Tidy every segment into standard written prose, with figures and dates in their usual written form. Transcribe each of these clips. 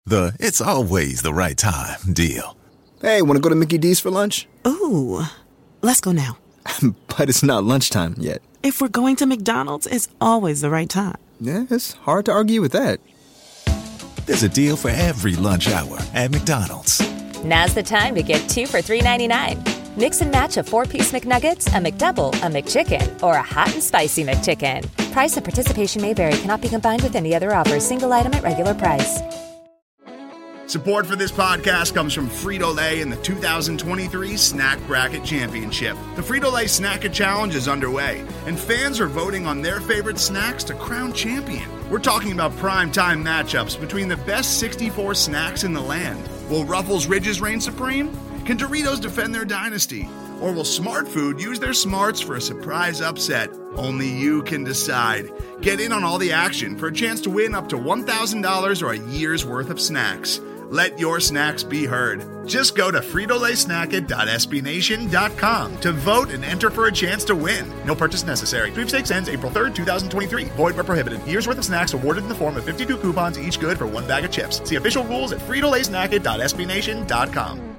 The "it's always the right time" deal. Hey, want to go to Mickey D's for lunch? Ooh, let's go now. But it's not lunchtime yet. If we're going to McDonald's, it's always the right time. Yeah, it's hard to argue with that. There's a deal for every lunch hour at McDonald's. Now's the time to get 2 for $3.99. Mix and match a 4-piece McNuggets, a McDouble, a McChicken, or a hot and spicy McChicken. Price and participation may vary. Cannot be combined with any other offer. Single item at regular price. Support for this podcast comes from Frito-Lay and the 2023 Snack Bracket Championship. The Frito-Lay Snack-It Challenge is underway, and fans are voting on their favorite snacks to crown champion. We're talking about prime-time matchups between the best 64 snacks in the land. Will Ruffles Ridges reign supreme? Can Doritos defend their dynasty? Or will Smart Food use their smarts for a surprise upset? Only you can decide. Get in on all the action for a chance to win up to $1,000 or a year's worth of snacks. Let your snacks be heard. Just go to fritolaysnacket.sbnation.com to vote and enter for a chance to win. No purchase necessary. Sweepstakes ends April 3rd, 2023. Void where prohibited. Year's worth of snacks awarded in the form of 52 coupons, each good for 1 bag of chips. See official rules at fritolaysnacket.sbnation.com.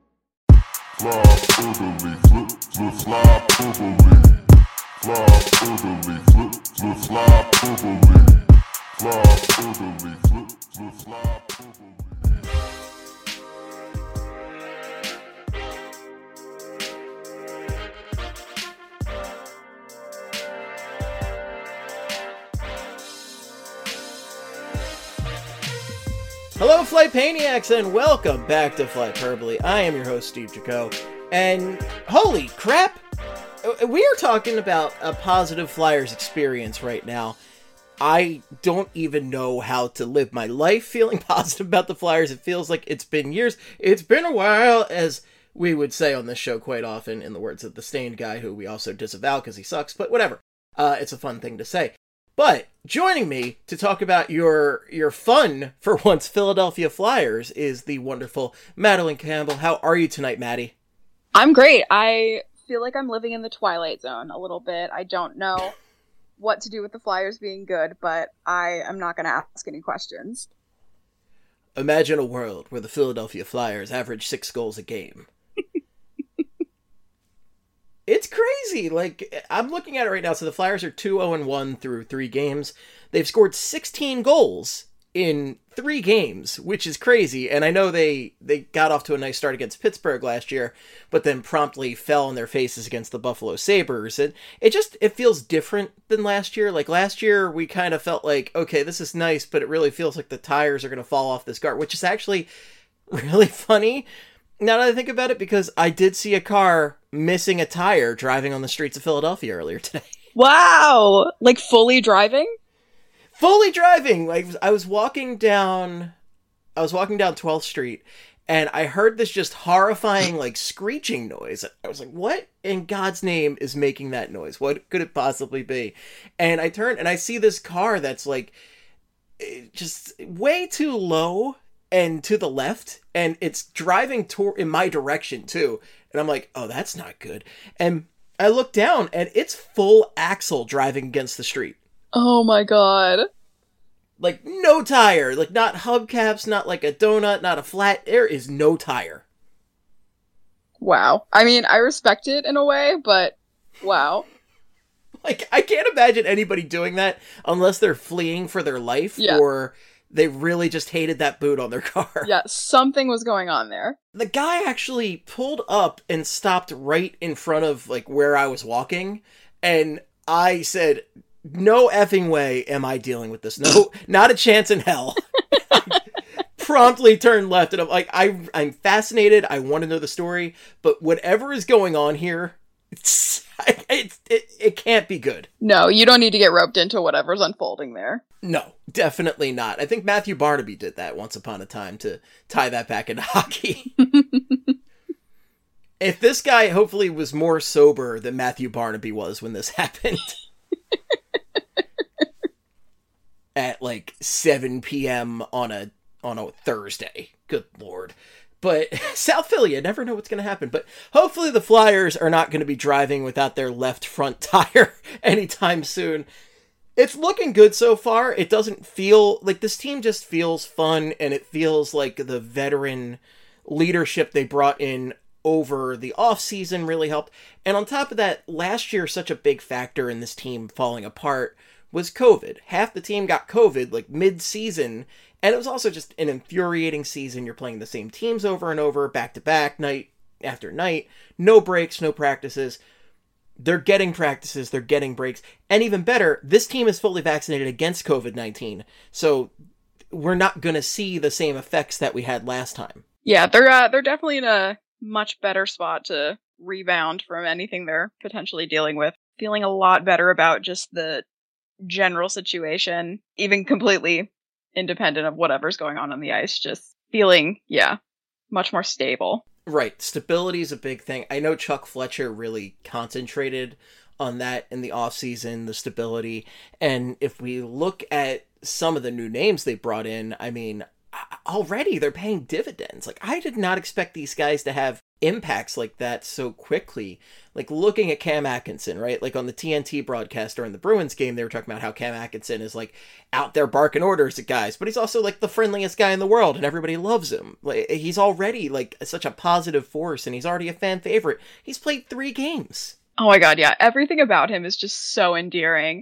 Hello, Flightpaniacs, and welcome back to Flightperbole. I am your host, Steve Jaco, and holy crap, we are talking about a positive Flyers experience right now. I don't even know how to live my life feeling positive about the Flyers. It feels like it's been years. It's been a while, as we would say on this show quite often, in the words of the Stained guy, who we also disavow because he sucks, but whatever. It's a fun thing to say. But joining me to talk about your fun, for once, Philadelphia Flyers is the wonderful Madeline Campbell. How are you tonight, Maddie? I'm great. I feel like I'm living in the Twilight Zone a little bit. I don't know what to do with the Flyers being good, but I am not going to ask any questions. Imagine a world where the Philadelphia Flyers average 6 goals a game. It's crazy. Like, I'm looking at it right now. So the Flyers are 2-0-1 through 3 games. They've scored 16 goals in 3 games, which is crazy. And I know they got off to a nice start against Pittsburgh last year, but then promptly fell on their faces against the Buffalo Sabres. And it feels different than last year. Like, last year, we kind of felt like, okay, this is nice, but it really feels like the tires are going to fall off this car, which is actually really funny now that I think about it, because I did see a car missing a tire driving on the streets of Philadelphia earlier today. Wow! Like, fully driving? Fully driving! Like, I was walking down 12th Street, and I heard this just horrifying, like, screeching noise. I was like, what in God's name is making that noise? What could it possibly be? And I turn, and I see this car that's, like, just way too low and to the left, and it's driving in my direction too. And I'm like, oh, that's not good. And I look down, and it's full axle driving against the street. Oh my god. Like, no tire. Like, not hubcaps, not like a donut, not a flat. There is no tire. Wow. I mean, I respect it in a way, but wow. Like, I can't imagine anybody doing that unless they're fleeing for their life, or they really just hated that boot on their car. Yeah, something was going on there. The guy actually pulled up and stopped right in front of, like, where I was walking, and I said, no effing way am I dealing with this. No, not a chance in hell. Promptly turned left, and I'm like, I'm fascinated. I want to know the story, but whatever is going on here, it can't be good. No, you don't need to get roped into whatever's unfolding there. No, definitely not. I think Matthew Barnaby did that once upon a time to tie that back into hockey. If this guy hopefully was more sober than Matthew Barnaby was when this happened. At like 7 p.m. on a Thursday. Good lord. But South Philly, you never know what's going to happen. But hopefully the Flyers are not going to be driving without their left front tire anytime soon. It's looking good so far. It doesn't feel like this team just feels fun, and it feels like the veteran leadership they brought in over the offseason really helped. And on top of that, last year, such a big factor in this team falling apart was COVID. Half the team got COVID like mid-season, and it was also just an infuriating season. You're playing the same teams over and over, back to back, night after night, no breaks, no practices. They're getting practices, they're getting breaks, and even better, this team is fully vaccinated against COVID-19, so we're not going to see the same effects that we had last time. Yeah, they're definitely in a much better spot to rebound from anything they're potentially dealing with. Feeling a lot better about just the general situation, even completely independent of whatever's going on the ice. Just feeling, much more stable. Right. Stability is a big thing. I know Chuck Fletcher really concentrated on that in the offseason, the stability. And if we look at some of the new names they brought in, I mean, already they're paying dividends. Like, I did not expect these guys to have impacts like that so quickly. Like, looking at Cam Atkinson, right? Like, on the TNT broadcast during the Bruins game, they were talking about how Cam Atkinson is, like, out there barking orders at guys, but he's also, like, the friendliest guy in the world, and everybody loves him. Like, he's already, like, such a positive force, and he's already a fan favorite. He's played 3 games. Oh my god, yeah. Everything about him is just so endearing.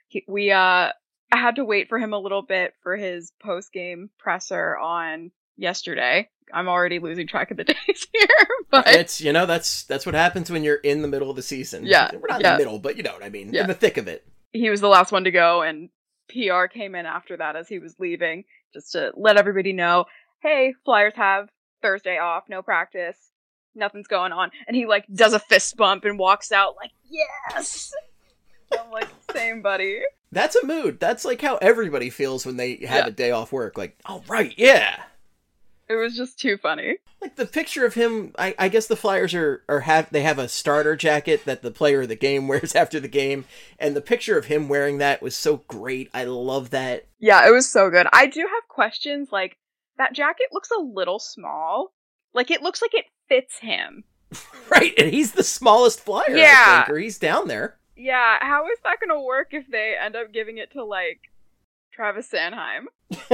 I had to wait for him a little bit for his post-game presser on yesterday. I'm already losing track of the days here, but it's, that's what happens when you're in the middle of the season. Yeah. We're not in the middle, but you know what I mean. Yeah. In the thick of it. He was the last one to go, and PR came in after that as he was leaving, just to let everybody know, hey, Flyers have Thursday off, no practice, nothing's going on. And he, like, does a fist bump and walks out like, yes! I'm like, same, buddy. That's a mood. That's like how everybody feels when they have a day off work. Like, all right, yeah. It was just too funny. Like the picture of him, I guess the Flyers they have a starter jacket that the player of the game wears after the game, and the picture of him wearing that was so great. I love that. Yeah, it was so good. I do have questions, like, that jacket looks a little small. Like, it looks like it fits him. Right, and he's the smallest Flyer, I think, or he's down there. Yeah, how is that gonna work if they end up giving it to, like, Travis Sanheim?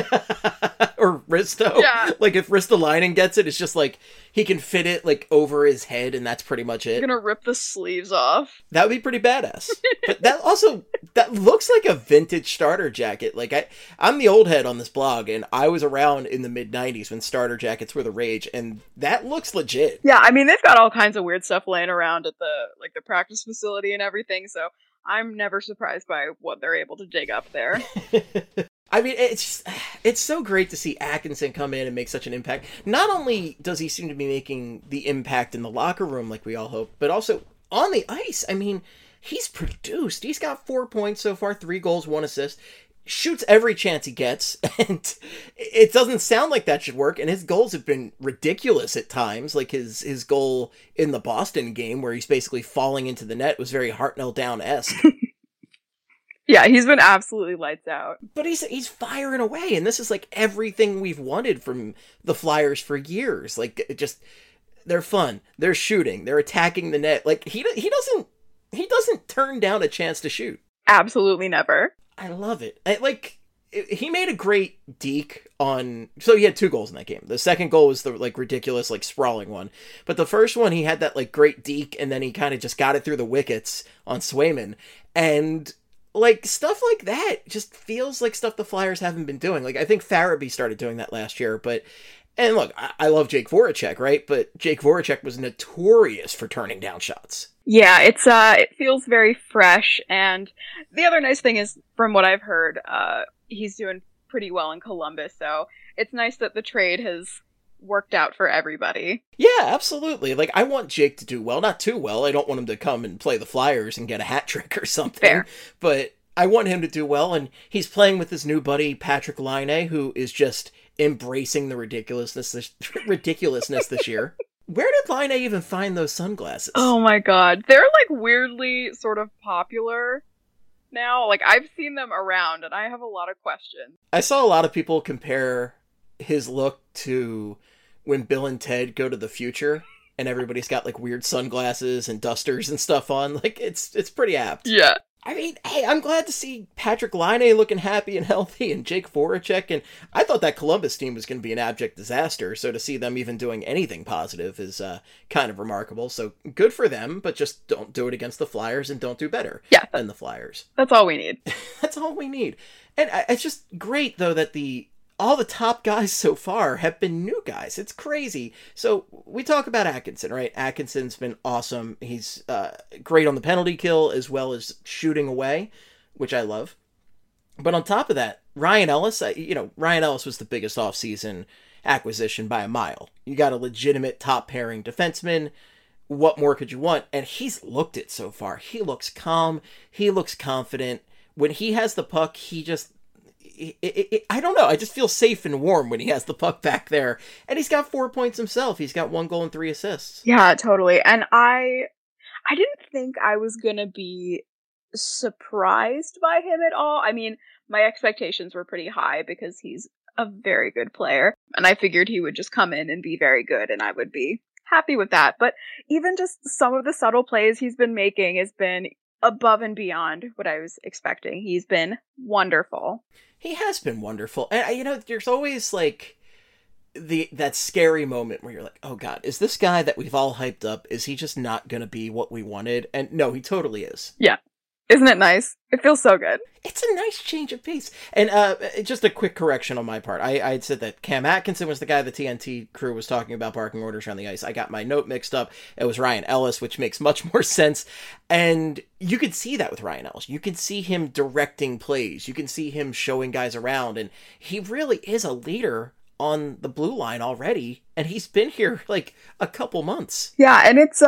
Or Risto. Yeah. Like, if Ristolainen gets it, it's just like, he can fit it, like, over his head, and that's pretty much it. You're gonna rip the sleeves off. That would be pretty badass. But that looks like a vintage starter jacket. Like, I'm the old head on this blog, and I was around in the mid-90s when starter jackets were the rage, and that looks legit. Yeah, I mean, they've got all kinds of weird stuff laying around at the practice facility and everything, so I'm never surprised by what they're able to dig up there. I mean, it's so great to see Atkinson come in and make such an impact. Not only does he seem to be making the impact in the locker room like we all hope, but also on the ice. I mean, he's produced. He's got 4 points so far, 3 goals, 1 assist. Shoots every chance he gets, and it doesn't sound like that should work, and his goals have been ridiculous at times. Like his goal in the Boston game where he's basically falling into the net was very Hartnell Down-esque. Yeah, he's been absolutely lights out. But he's firing away, and this is like everything we've wanted from the Flyers for years. Like, they're fun, they're shooting, they're attacking the net. Like, he doesn't turn down a chance to shoot. Absolutely never. I love it. He made a great deke on... So he had 2 goals in that game. The second goal was the, like, ridiculous, like, sprawling one. But the first one, he had that, like, great deke, and then he kind of just got it through the wickets on Swayman. And, like, stuff like that just feels like stuff the Flyers haven't been doing. Like, I think Farabee started doing that last year, but... And look, I love Jake Voracek, right? But Jake Voracek was notorious for turning down shots. Yeah, it feels very fresh, and the other nice thing is, from what I've heard, he's doing pretty well in Columbus, so it's nice that the trade has worked out for everybody. Yeah, absolutely. Like, I want Jake to do well, not too well. I don't want him to come and play the Flyers and get a hat trick or something. Fair. But I want him to do well, and he's playing with his new buddy, Patrick Laine, who is just embracing the ridiculousness this year. Where did Laine even find those sunglasses? Oh my god. They're, like, weirdly sort of popular now. Like, I've seen them around, and I have a lot of questions. I saw a lot of people compare his look to when Bill and Ted Go to the Future, and everybody's got, like, weird sunglasses and dusters and stuff on. Like, it's pretty apt. Yeah. I mean, hey, I'm glad to see Patrick Laine looking happy and healthy and Jake Voracek, and I thought that Columbus team was going to be an abject disaster, so to see them even doing anything positive is kind of remarkable. So good for them, but just don't do it against the Flyers and don't do better than the Flyers. That's all we need. That's all we need. And it's just great, though, that all the top guys so far have been new guys. It's crazy. So we talk about Atkinson, right? Atkinson's been awesome. He's great on the penalty kill as well as shooting away, which I love. But on top of that, Ryan Ellis, Ryan Ellis was the biggest offseason acquisition by a mile. You got a legitimate top pairing defenseman. What more could you want? And he's looked it so far. He looks calm. He looks confident. When he has the puck, he just... I don't know. I just feel safe and warm when he has the puck back there. And he's got 4 points himself. He's got 1 goal and 3 assists. Yeah, totally. And I didn't think I was going to be surprised by him at all. I mean, my expectations were pretty high because he's a very good player. And I figured he would just come in and be very good and I would be happy with that. But even just some of the subtle plays he's been making has been above and beyond what I was expecting. He's been wonderful. He has been wonderful. And, there's always, like, that scary moment where you're like, oh, God, is this guy that we've all hyped up, is he just not going to be what we wanted? And no, he totally is. Yeah. Isn't it nice? It feels so good. It's a nice change of pace. And just a quick correction on my part. I had said that Cam Atkinson was the guy the TNT crew was talking about barking orders around the ice. I got my note mixed up. It was Ryan Ellis, which makes much more sense. And you could see that with Ryan Ellis. You can see him directing plays. You can see him showing guys around. And he really is a leader on the blue line already. And he's been here like a couple months. Yeah, and it's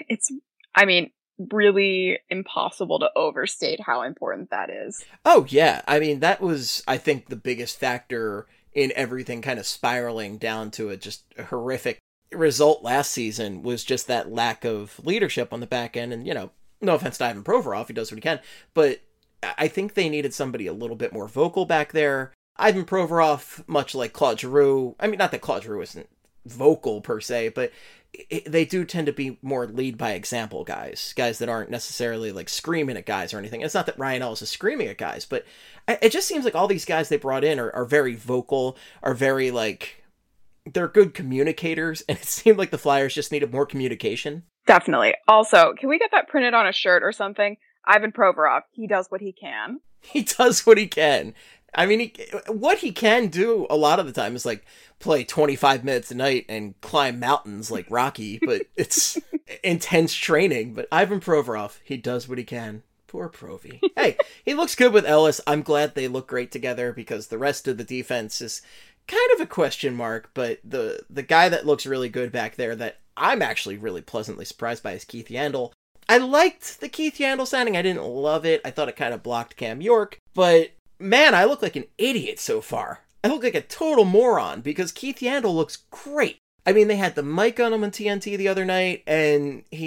really impossible to overstate how important that is. Oh, yeah. I mean, that was, I think, the biggest factor in everything kind of spiraling down to a just horrific result last season was just that lack of leadership on the back end. And, no offense to Ivan Provorov, he does what he can, but I think they needed somebody a little bit more vocal back there. Ivan Provorov, much like Claude Giroux, I mean, not that Claude Giroux isn't vocal per se, but they do tend to be more lead by example guys that aren't necessarily like screaming at guys or anything. It's not that Ryan Ellis is screaming at guys, but it just seems like all these guys they brought in are very vocal, are very like, they're good communicators, and it seemed like the Flyers just needed more communication. Definitely. Also, can we get that printed on a shirt or something? Ivan Provorov, he does what he can. He does what he can. I mean, what he can do a lot of the time is like play 25 minutes a night and climb mountains like Rocky, but it's intense training. But Ivan Provorov, he does what he can. Poor Provy. Hey, he looks good with Ellis. I'm glad they look great together because the rest of the defense is kind of a question mark. But the guy that looks really good back there that I'm actually really pleasantly surprised by is Keith Yandle. I liked the Keith Yandle signing. I didn't love it. I thought it kind of blocked Cam York, but man, I look like an idiot so far. I look like a total moron because Keith Yandle looks great. I mean, they had the mic on him on TNT the other night, and he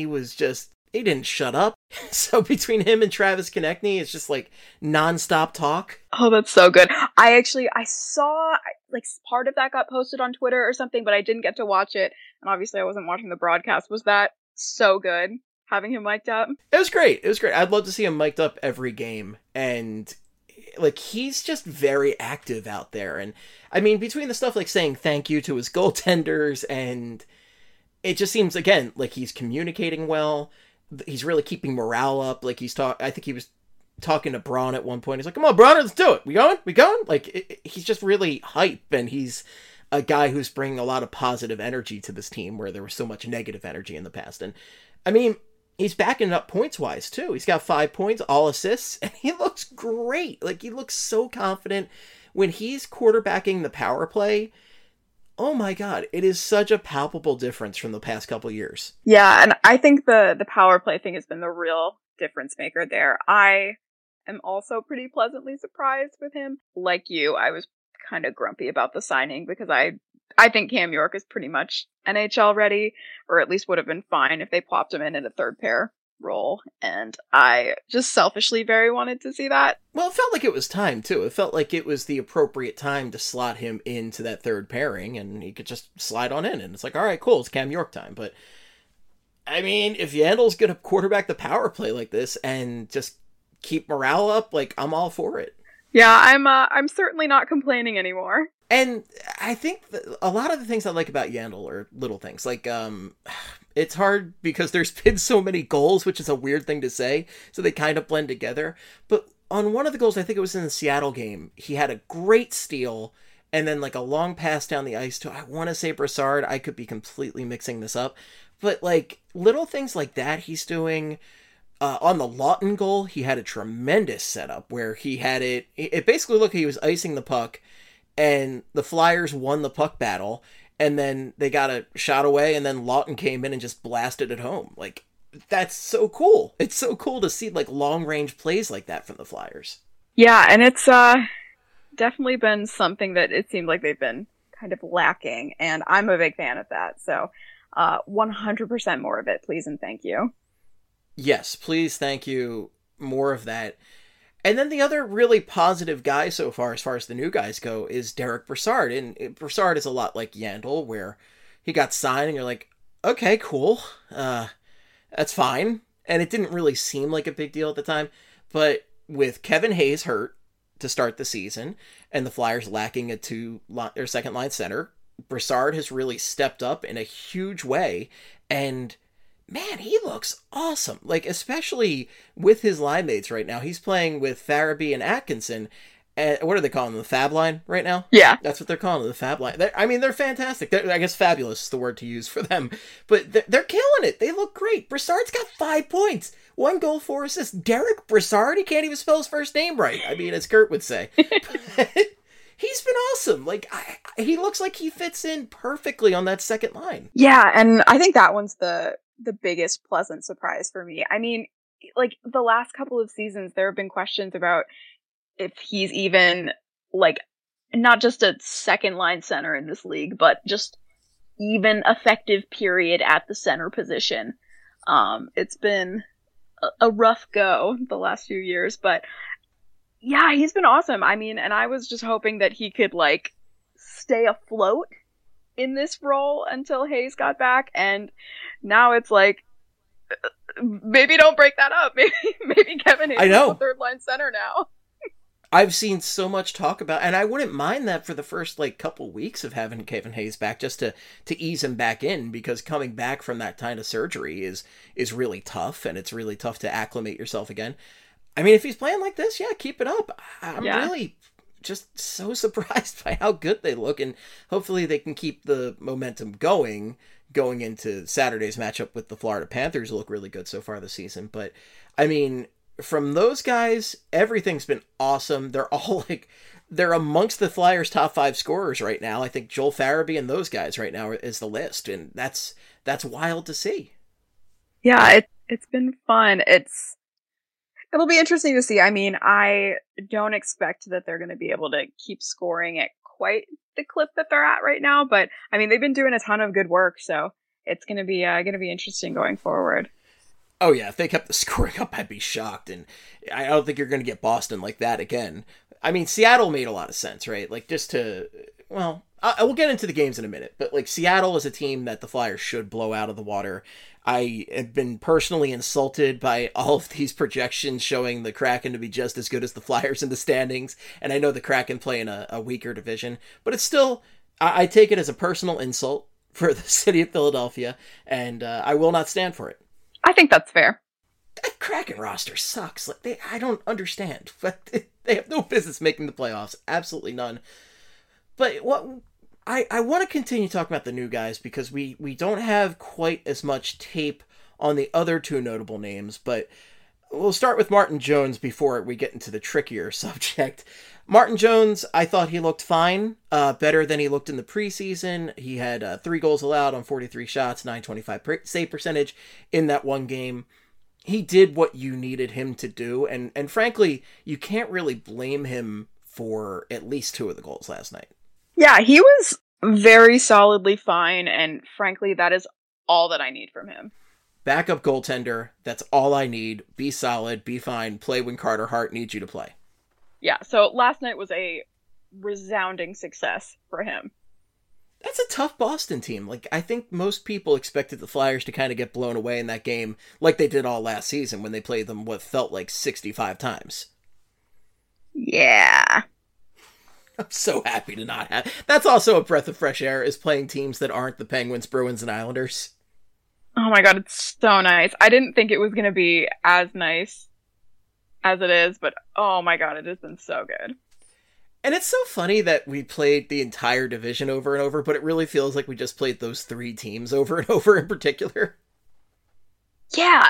didn't shut up. So between him and Travis Konechny, it's just like nonstop talk. Oh, that's so good. I saw like part of that got posted on Twitter or something, but I didn't get to watch it. And obviously I wasn't watching the broadcast. Was that so good, having him mic'd up? It was great. I'd love to see him mic'd up every game. And like, he's just very active out there. And I mean, between the stuff like saying thank you to his goaltenders, and it just seems, again, like he's communicating well. He's really keeping morale up. Like I think he was talking to Braun at one point. He's like, come on, Braun, let's do it. We going? Like, he's just really hype. And he's a guy who's bringing a lot of positive energy to this team where there was so much negative energy in the past. And I mean, he's backing it up points-wise, too. He's got 5 points, all assists, and he looks great. Like, he looks so confident. When he's quarterbacking the power play, oh my God, it is such a palpable difference from the past couple years. Yeah, and I think the power play thing has been the real difference maker there. I am also pretty pleasantly surprised with him. Like you, I was kind of grumpy about the signing because I think Cam York is pretty much NHL ready, or at least would have been fine if they plopped him in a third pair role. And I just selfishly very wanted to see that. Well, it felt like it was time, too. It felt like it was the appropriate time to slot him into that third pairing, and he could just slide on in. And it's like, all right, cool, it's Cam York time. But, I mean, if Yandle's going to quarterback the power play like this and just keep morale up, like, I'm all for it. Yeah, I'm certainly not complaining anymore. And I think a lot of the things I like about Yandle are little things. Like, it's hard because there's been so many goals, which is a weird thing to say, so they kind of blend together. But on one of the goals, I think it was in the Seattle game, he had a great steal, and then, like, a long pass down the ice to, I want to say Brassard. I could be completely mixing this up. But, like, little things like that he's doing. On the Lawton goal, he had a tremendous setup where he had it basically looked like he was icing the puck, and the Flyers won the puck battle, and then they got a shot away, and then Lawton came in and just blasted it home. Like, that's so cool. It's so cool to see, like, long-range plays like that from the Flyers. Yeah, and it's definitely been something that it seemed like they've been kind of lacking, and I'm a big fan of that. So 100% more of it, please and thank you. Yes, please, thank you. More of that. And then the other really positive guy so far, as far as the new guys go, is Derek Brassard. And Brassard is a lot like Yandle, where he got signed and you're like, okay, cool. That's fine. And it didn't really seem like a big deal at the time. But with Kevin Hayes hurt to start the season, and the Flyers lacking their second line center, Brassard has really stepped up in a huge way. And man, he looks awesome. Like, especially with his line mates right now. He's playing with Farabee and Atkinson. And what are they calling them? The Fab Line right now? Yeah. That's what they're calling them, the Fab Line. They're fantastic. I guess fabulous is the word to use for them. But they're killing it. They look great. Brassard's got 5 points. 1 goal, 4 assists. Derek Brassard? He can't even spell his first name right. I mean, as Kurt would say. He's been awesome. Like, he looks like he fits in perfectly on that second line. Yeah, and I think that one's the biggest pleasant surprise for me. I mean, like, the last couple of seasons, there have been questions about if he's even, like, not just a second line center in this league, but just even effective period at the center position. It's been a rough go the last few years, but yeah, he's been awesome. I mean, and I was just hoping that he could, like, stay afloat in this role until Hayes got back, and now it's like, maybe don't break that up. Maybe Kevin Hayes is a third line center now. I've seen so much talk about, and I wouldn't mind that for the first, like, couple weeks of having Kevin Hayes back, just to ease him back in, because coming back from that kind of surgery is really tough, and it's really tough to acclimate yourself again. I mean, if he's playing like this, yeah, keep it up. I'm really just so surprised by how good they look, and hopefully they can keep the momentum going into Saturday's matchup with the Florida Panthers. Look really good so far this season. But I mean, from those guys, everything's been awesome. They're all they're amongst the Flyers' top 5 scorers right now. I think Joel Farabee and those guys right now is the list, and that's wild to see. Yeah, it's been fun. It'll be interesting to see. I mean, I don't expect that they're going to be able to keep scoring at quite the clip that they're at right now, but I mean, they've been doing a ton of good work, so it's going to be interesting going forward. Oh yeah, if they kept the scoring up, I'd be shocked, and I don't think you're going to get Boston like that again. I mean, Seattle made a lot of sense, right? Like, I will get into the games in a minute, but, like, Seattle is a team that the Flyers should blow out of the water. I have been personally insulted by all of these projections showing the Kraken to be just as good as the Flyers in the standings, and I know the Kraken play in a weaker division, but it's still, I take it as a personal insult for the city of Philadelphia, and I will not stand for it. I think that's fair. That Kraken roster sucks. Like, I don't understand, but they have no business making the playoffs. Absolutely none. But what I want to continue talking about the new guys, because we don't have quite as much tape on the other 2 notable names, but we'll start with Martin Jones before we get into the trickier subject. Martin Jones, I thought he looked fine, better than he looked in the preseason. He had 3 goals allowed on 43 shots, .925 save percentage in that one game. He did what you needed him to do, and frankly, you can't really blame him for at least 2 of the goals last night. Yeah, he was very solidly fine, and frankly, that is all that I need from him. Backup goaltender, that's all I need. Be solid, be fine, play when Carter Hart needs you to play. Yeah, so last night was a resounding success for him. That's a tough Boston team. Like, I think most people expected the Flyers to kind of get blown away in that game like they did all last season when they played them what felt like 65 times. Yeah. I'm so happy to not have... That's also a breath of fresh air, is playing teams that aren't the Penguins, Bruins, and Islanders. Oh my god, it's so nice. I didn't think it was going to be as nice as it is, but oh my god, it has been so good. And it's so funny that we played the entire division over and over, but it really feels like we just played those 3 teams over and over in particular. Yeah,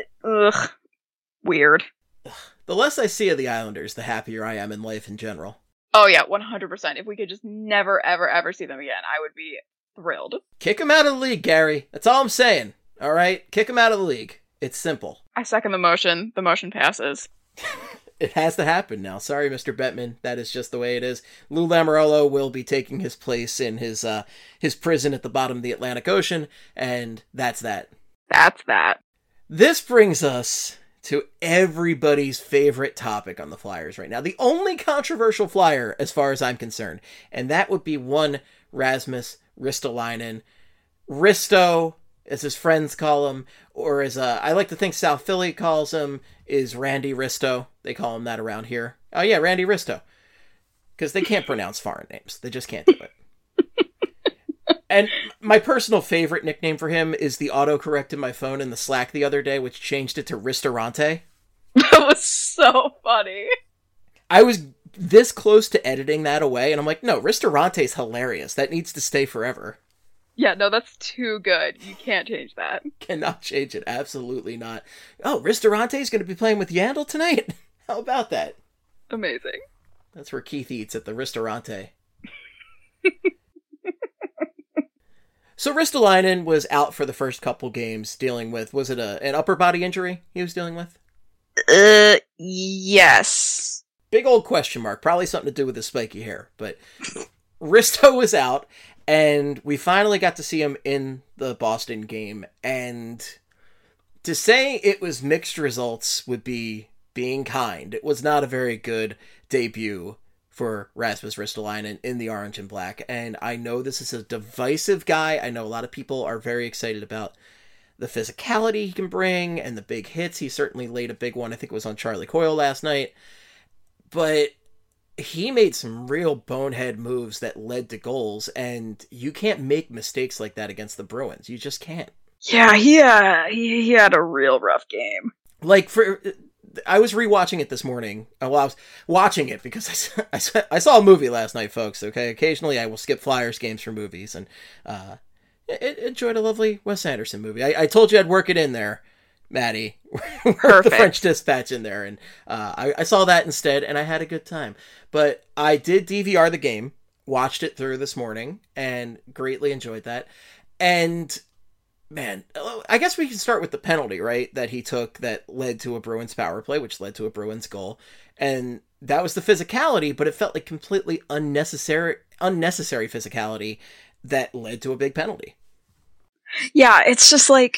weird. The less I see of the Islanders, the happier I am in life in general. Oh yeah, 100%. If we could just never, ever, ever see them again, I would be thrilled. Kick them out of the league, Gary. That's all I'm saying. All right? Kick them out of the league. It's simple. I second the motion. The motion passes. It has to happen now. Sorry, Mr. Bettman. That is just the way it is. Lou Lamoriello will be taking his place in his prison at the bottom of the Atlantic Ocean, and that's that. That's that. This brings us to everybody's favorite topic on the Flyers right now. The only controversial Flyer, as far as I'm concerned, and that would be one Rasmus Ristolainen. Risto, as his friends call him, or as I like to think South Philly calls him, is Randy Risto. They call him that around here. Oh yeah, Randy Risto. Because they can't pronounce foreign names. They just can't do it. And my personal favorite nickname for him is the autocorrect in my phone in the Slack the other day, which changed it to Ristorante. That was so funny. I was this close to editing that away, and I'm like, no, Ristorante's hilarious. That needs to stay forever. Yeah, no, that's too good. You can't change that. Cannot change it. Absolutely not. Oh, Ristorante's going to be playing with Yandel tonight? How about that? Amazing. That's where Keith eats, at the Ristorante. So Ristolainen was out for the first couple games dealing with, was it an upper body injury he was dealing with? Yes. Big old question mark. Probably something to do with his spiky hair. But Risto was out, and we finally got to see him in the Boston game. And to say it was mixed results would be being kind. It was not a very good debut for Rasmus Ristolainen in the orange and black. And I know this is a divisive guy. I know a lot of people are very excited about the physicality he can bring and the big hits. He certainly laid a big one. I think it was on Charlie Coyle last night. But he made some real bonehead moves that led to goals. And you can't make mistakes like that against the Bruins. You just can't. Yeah, he had a real rough game. Like, I was rewatching it this morning. Well, I was watching it because I saw a movie last night, folks. Okay, occasionally I will skip Flyers games for movies, and enjoyed a lovely Wes Anderson movie. I told you I'd work it in there, Maddie. Work the French Dispatch in there, and I saw that instead, and I had a good time. But I did DVR the game, watched it through this morning, and greatly enjoyed that. And man, I guess we can start with the penalty, right? That he took that led to a Bruins power play, which led to a Bruins goal. And that was the physicality, but it felt like completely unnecessary physicality that led to a big penalty. Yeah, it's just like,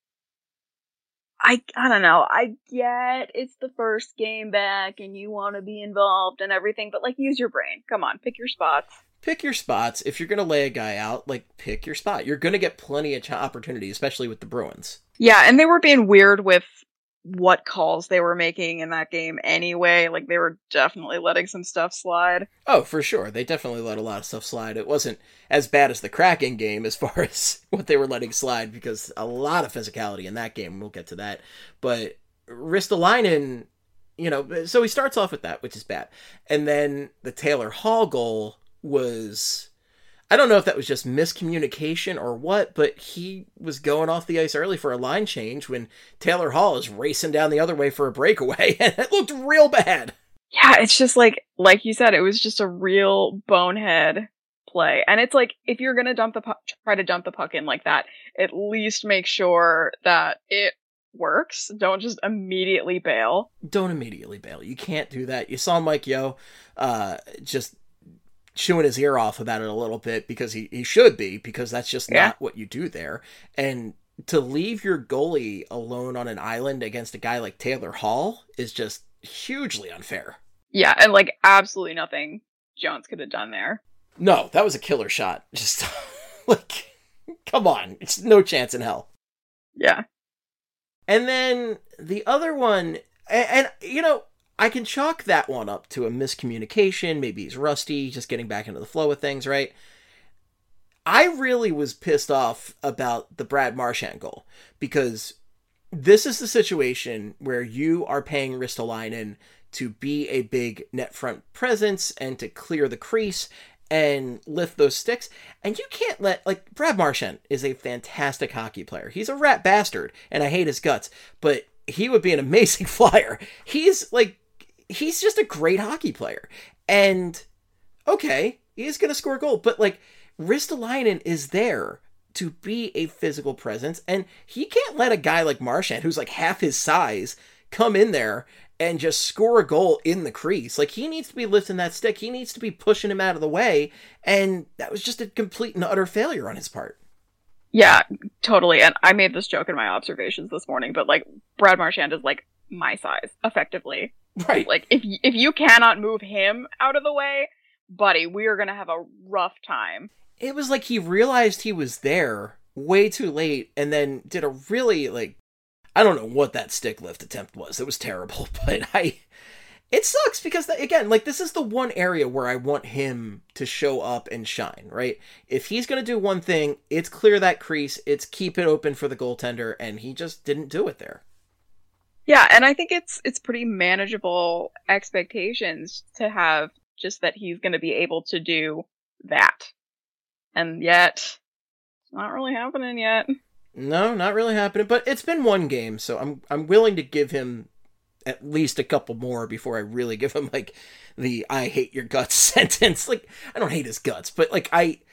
I don't know. I get it's the first game back and you want to be involved and everything, but like, use your brain. Come on, pick your spots. Pick your spots. If you're going to lay a guy out, like, pick your spot. You're going to get plenty of opportunities, especially with the Bruins. Yeah, and they were being weird with what calls they were making in that game anyway. Like, they were definitely letting some stuff slide. Oh, for sure. They definitely let a lot of stuff slide. It wasn't as bad as the Kraken game as far as what they were letting slide, because a lot of physicality in that game. We'll get to that. But Ristolainen, so he starts off with that, which is bad. And then the Taylor Hall goal was, I don't know if that was just miscommunication or what, but he was going off the ice early for a line change when Taylor Hall is racing down the other way for a breakaway, and it looked real bad. Yeah, it's just like you said, it was just a real bonehead play. And it's like, if you're going to try to dump the puck in like that, at least make sure that it works. Don't just immediately bail. Don't immediately bail. You can't do that. You saw Mike Yeo just chewing his ear off about it a little bit, because he should be, because that's just not what you do there. And to leave your goalie alone on an island against a guy like Taylor Hall is just hugely unfair. Yeah, and like absolutely nothing Jones could have done there. No, that was a killer shot. Just, like, come on. It's no chance in hell. Yeah. And then the other one, and you know, I can chalk that one up to a miscommunication. Maybe he's rusty, just getting back into the flow of things, right? I really was pissed off about the Brad Marchand goal, because this is the situation where you are paying Ristolainen to be a big net front presence and to clear the crease and lift those sticks. And you can't let, like, Brad Marchand is a fantastic hockey player. He's a rat bastard, and I hate his guts, but he would be an amazing flyer. He's just a great hockey player. And, okay, he's going to score a goal, but, like, Ristolainen is there to be a physical presence, and he can't let a guy like Marchand, who's like half his size, come in there and just score a goal in the crease. Like, he needs to be lifting that stick. He needs to be pushing him out of the way. And that was just a complete and utter failure on his part. Yeah, totally. And I made this joke in my observations this morning, but like, Brad Marchand is like my size, effectively. Right. Like, if you cannot move him out of the way, buddy, we are going to have a rough time. It was like he realized he was there way too late and then did a really, like, I don't know what that stick lift attempt was. It was terrible, but it sucks because, again, like, this is the one area where I want him to show up and shine, right? If he's going to do one thing, it's clear that crease, it's keep it open for the goaltender, and he just didn't do it there. Yeah, and I think it's pretty manageable expectations to have just that he's going to be able to do that. And yet, it's not really happening yet. No, not really happening, but it's been one game, so I'm willing to give him at least a couple more before I really give him, like, the I hate your guts sentence. Like, I don't hate his guts, but, like,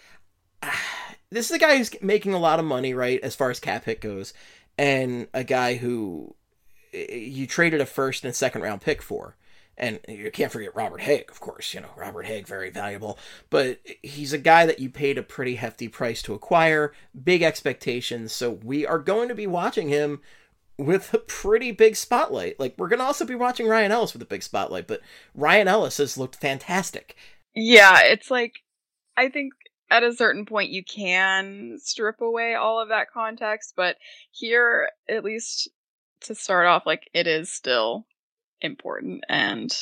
this is a guy who's making a lot of money, right, as far as cap hit goes, and a guy who you traded a first and second round pick for. And you can't forget Robert Haig, of course. You know, Robert Haig, very valuable. But he's a guy that you paid a pretty hefty price to acquire, big expectations. So we are going to be watching him with a pretty big spotlight. Like, we're going to also be watching Ryan Ellis with a big spotlight. But Ryan Ellis has looked fantastic. Yeah, it's like, I think at a certain point you can strip away all of that context. But here, at least to start off, like, it is still important, and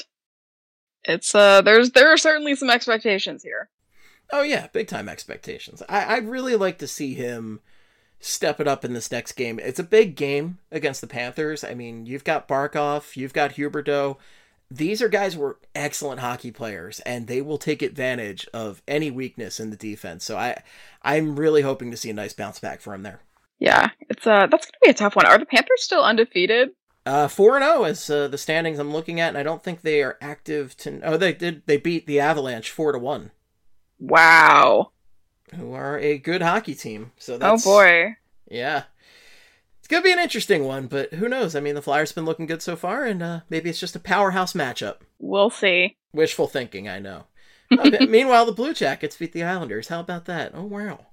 it's there are certainly some expectations here. Oh yeah, big time expectations. I'd really like to see him step it up in this next game. It's a big game against the Panthers. I mean, you've got Barkov, you've got Huberdeau. These are guys who are excellent hockey players, and they will take advantage of any weakness in the defense. So I'm really hoping to see a nice bounce back for him there. Yeah, it's that's gonna be a tough one. Are the Panthers still undefeated? 4-0 is the standings I'm looking at, and I don't think they are active to... Oh, they did. They beat the Avalanche 4-1. Wow. Who are a good hockey team. So that's... Oh, boy. Yeah. It's going to be an interesting one, but who knows? I mean, the Flyers have been looking good so far, and maybe it's just a powerhouse matchup. We'll see. Wishful thinking, I know. Meanwhile, the Blue Jackets beat the Islanders. How about that? Oh, wow.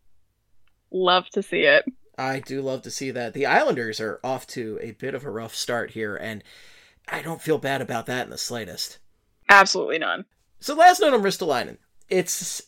Love to see it. I do love to see that. The Islanders are off to a bit of a rough start here, and I don't feel bad about that in the slightest. Absolutely none. So last note on Ristolainen. It's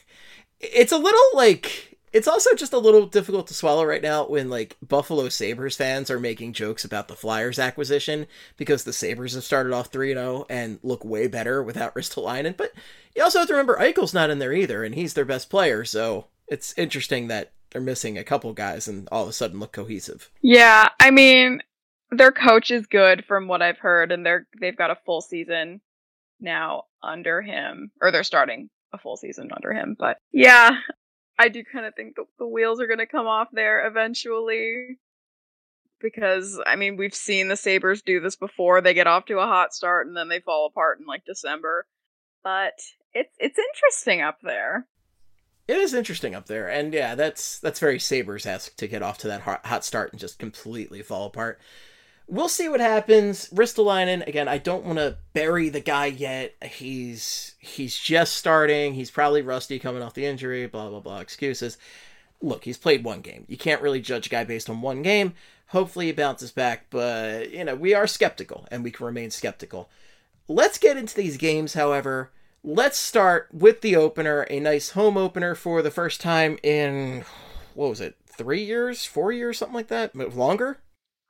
a little, like, it's also just a little difficult to swallow right now when, like, Buffalo Sabres fans are making jokes about the Flyers acquisition because the Sabres have started off 3-0 and look way better without Ristolainen. But you also have to remember Eichel's not in there either, and he's their best player, so it's interesting that they're missing a couple guys and all of a sudden look cohesive. Yeah, I mean, their coach is good from what I've heard, and they've got a full season now under him, or they're starting a full season under him. But yeah, I do kind of think the wheels are going to come off there eventually, because I mean, we've seen the Sabres do this before. They get off to a hot start and then they fall apart in like December. But it's interesting up there. It is interesting up there, and yeah, that's very Sabres-esque to get off to that hot start and just completely fall apart. We'll see what happens. Ristolainen, again, I don't want to bury the guy yet. He's just starting. He's probably rusty coming off the injury, blah, blah, blah, excuses. Look, he's played one game. You can't really judge a guy based on one game. Hopefully he bounces back, but, we are skeptical, and we can remain skeptical. Let's get into these games, however. let's start with the opener, a nice home opener for the first time in, what was it, 3 years, 4 years, something like that? Longer?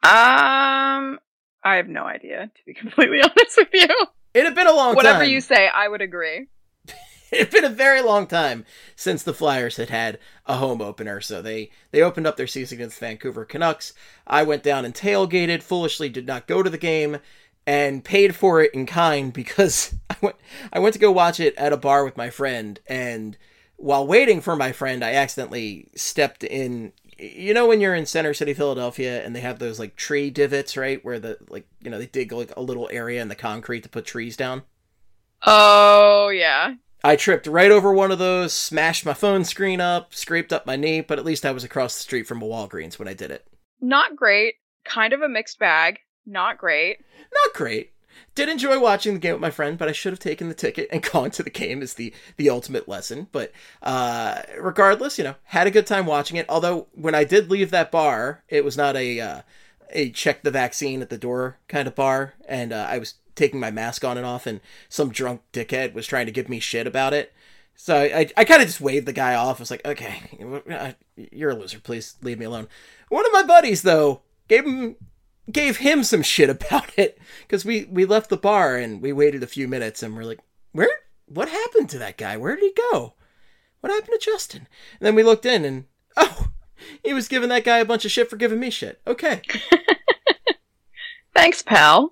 I have no idea, to be completely honest with you. It had been a long time. Whatever you say, I would agree. It had been a very long time since the Flyers had a home opener, so they opened up their season against the Vancouver Canucks. I went down and tailgated, foolishly did not go to the game, and paid for it in kind because I went to go watch it at a bar with my friend, and while waiting for my friend, I accidentally stepped in. You know when you're in Center City, Philadelphia, and they have those, like, tree divots, right? Where they dig, like, a little area in the concrete to put trees down? Oh, yeah. I tripped right over one of those, smashed my phone screen up, scraped up my knee, but at least I was across the street from a Walgreens when I did it. Not great. Kind of a mixed bag. Not great. Not great. Did enjoy watching the game with my friend, but I should have taken the ticket and gone to the game is the ultimate lesson. But regardless, had a good time watching it. Although when I did leave that bar, it was not a check the vaccine at the door kind of bar. And I was taking my mask on and off, and some drunk dickhead was trying to give me shit about it. So I kind of just waved the guy off. I was like, okay, you're a loser. Please leave me alone. One of my buddies, though, gave him some shit about it, because we left the bar and we waited a few minutes and we're like, what happened to that guy? Where did he go? What happened to Justin? And then we looked in and, he was giving that guy a bunch of shit for giving me shit. Okay. Thanks, pal.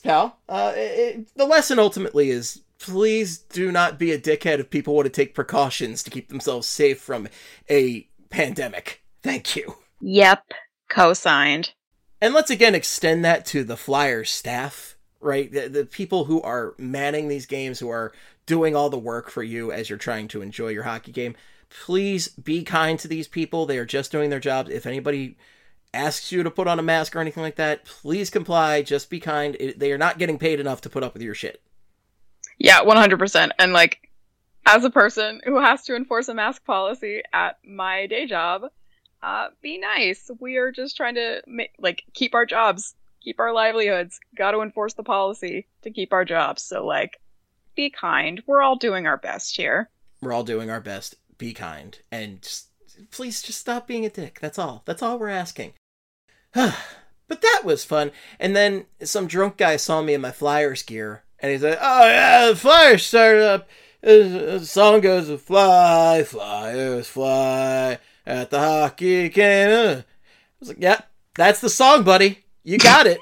The lesson ultimately is, please do not be a dickhead if people want to take precautions to keep themselves safe from a pandemic. Thank you. Yep. Co-signed. And let's again extend that to the Flyers staff, right? The people who are manning these games, who are doing all the work for you as you're trying to enjoy your hockey game. Please be kind to these people. They are just doing their jobs. If anybody asks you to put on a mask or anything like that, please comply. Just be kind. They are not getting paid enough to put up with your shit. Yeah, 100%. And as a person who has to enforce a mask policy at my day job, be nice. We are just trying to keep our jobs, keep our livelihoods. Got to enforce the policy to keep our jobs. So be kind. We're all doing our best here. We're all doing our best. Be kind, and please just stop being a dick. That's all we're asking. But that was fun. And then some drunk guy saw me in my Flyers gear, and he's like, "Oh yeah, the Flyers started up. The song goes, fly, Flyers, fly. At the hockey game." I was like, yeah, that's the song, buddy. You got it.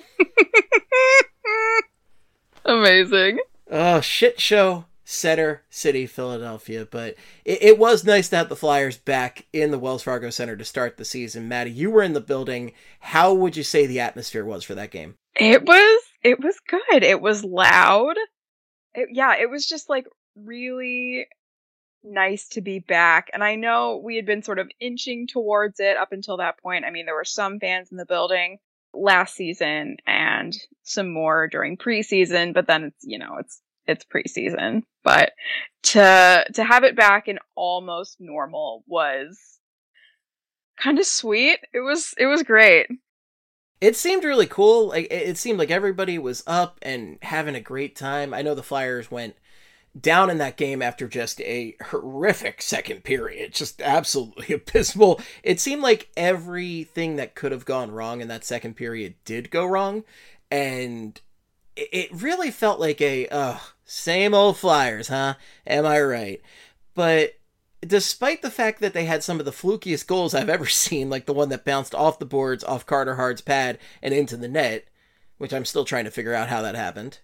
Amazing. Oh, shit show, Center City, Philadelphia. But it was nice to have the Flyers back in the Wells Fargo Center to start the season. Maddie, you were in the building. How would you say the atmosphere was for that game? It was good. It was loud. It was just really nice to be back. And I know we had been sort of inching towards it up until that point. I mean, there were some fans in the building last season and some more during preseason, but then it's preseason. But to have it back in almost normal was kind of sweet. It was great. It seemed really cool. It seemed like everybody was up and having a great time. I know the Flyers went down in that game after just a horrific second period, just absolutely abysmal. It seemed like everything that could have gone wrong in that second period did go wrong, and it really felt like same old Flyers, huh? Am I right? But despite the fact that they had some of the flukiest goals I've ever seen, like the one that bounced off the boards, off Carter Hard's pad, and into the net, which I'm still trying to figure out how that happened.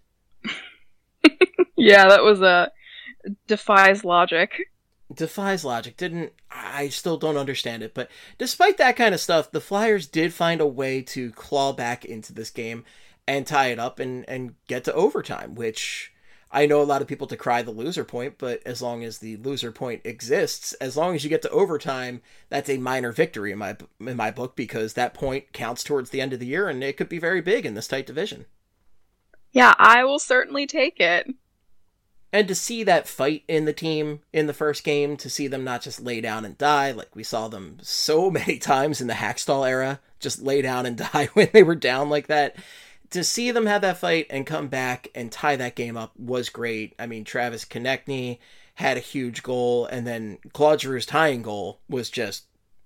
Yeah, that was defies logic. I still don't understand it. But despite that kind of stuff, the Flyers did find a way to claw back into this game and tie it up and get to overtime, which I know a lot of people decry the loser point, but as long as the loser point exists, as long as you get to overtime, that's a minor victory in my book, because that point counts towards the end of the year, and it could be very big in this tight division. Yeah, I will certainly take it. And to see that fight in the team in the first game, to see them not just lay down and die, like we saw them so many times in the Hackstall era, just lay down and die when they were down like that, to see them have that fight and come back and tie that game up was great. I mean, Travis Konechny had a huge goal, and then Claude Giroux's tying goal was just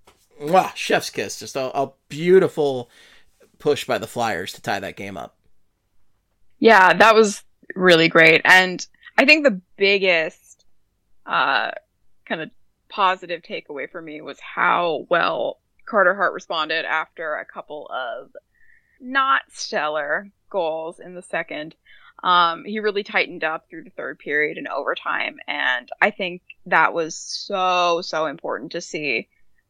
chef's kiss. Just a beautiful push by the Flyers to tie that game up. Yeah, that was really great. And I think the biggest kind of positive takeaway for me was how well Carter Hart responded after a couple of not stellar goals in the second. He really tightened up through the third period and overtime, and I think that was so important to see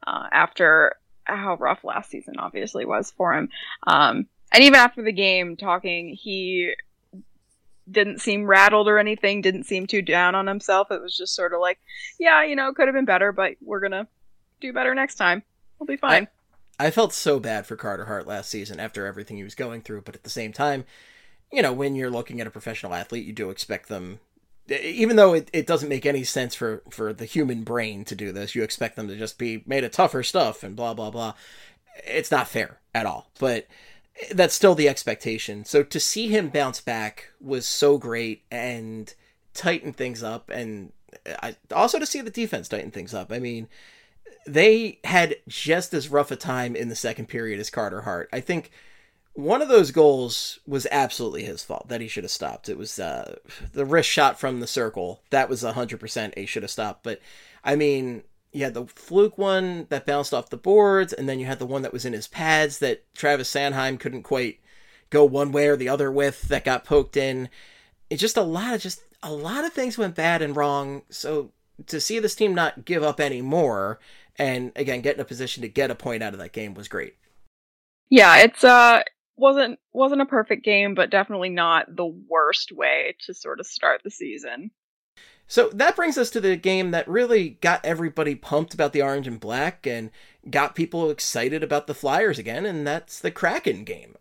after how rough last season obviously was for him. And even after the game talking, he didn't seem rattled or anything, didn't seem too down on himself. It was just sort of like, yeah, it could have been better, but we're gonna do better next time. We'll be fine. I felt so bad for Carter Hart last season after everything he was going through, but at the same time, when you're looking at a professional athlete, you do expect them, even though it doesn't make any sense for the human brain to do this, you expect them to just be made of tougher stuff and blah, blah, blah. It's not fair at all, but that's still the expectation. So to see him bounce back was so great and tighten things up, and also to see the defense tighten things up. I mean, they had just as rough a time in the second period as Carter Hart. I think one of those goals was absolutely his fault, that he should have stopped. It was the wrist shot from the circle. That was 100% he should have stopped. But, I mean, you had the fluke one that bounced off the boards, and then you had the one that was in his pads that Travis Sanheim couldn't quite go one way or the other with, that got poked in. It's just a lot of things went bad and wrong. So to see this team not give up anymore and, again, get in a position to get a point out of that game was great. Yeah, it's wasn't a perfect game, but definitely not the worst way to sort of start the season. So that brings us to the game that really got everybody pumped about the orange and black and got people excited about the Flyers again, and that's the Kraken game.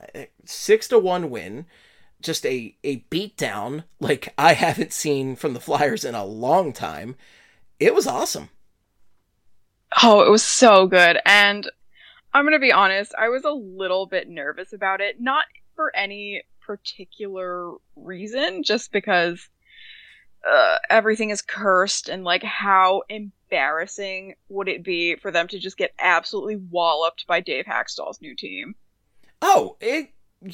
6-1 win. Just a beatdown like I haven't seen from the Flyers in a long time. It was awesome. Oh, it was so good. And I'm going to be honest, I was a little bit nervous about it. Not for any particular reason, just because everything is cursed, and like, how embarrassing would it be for them to just get absolutely walloped by Dave Haxtell's new team? Oh, I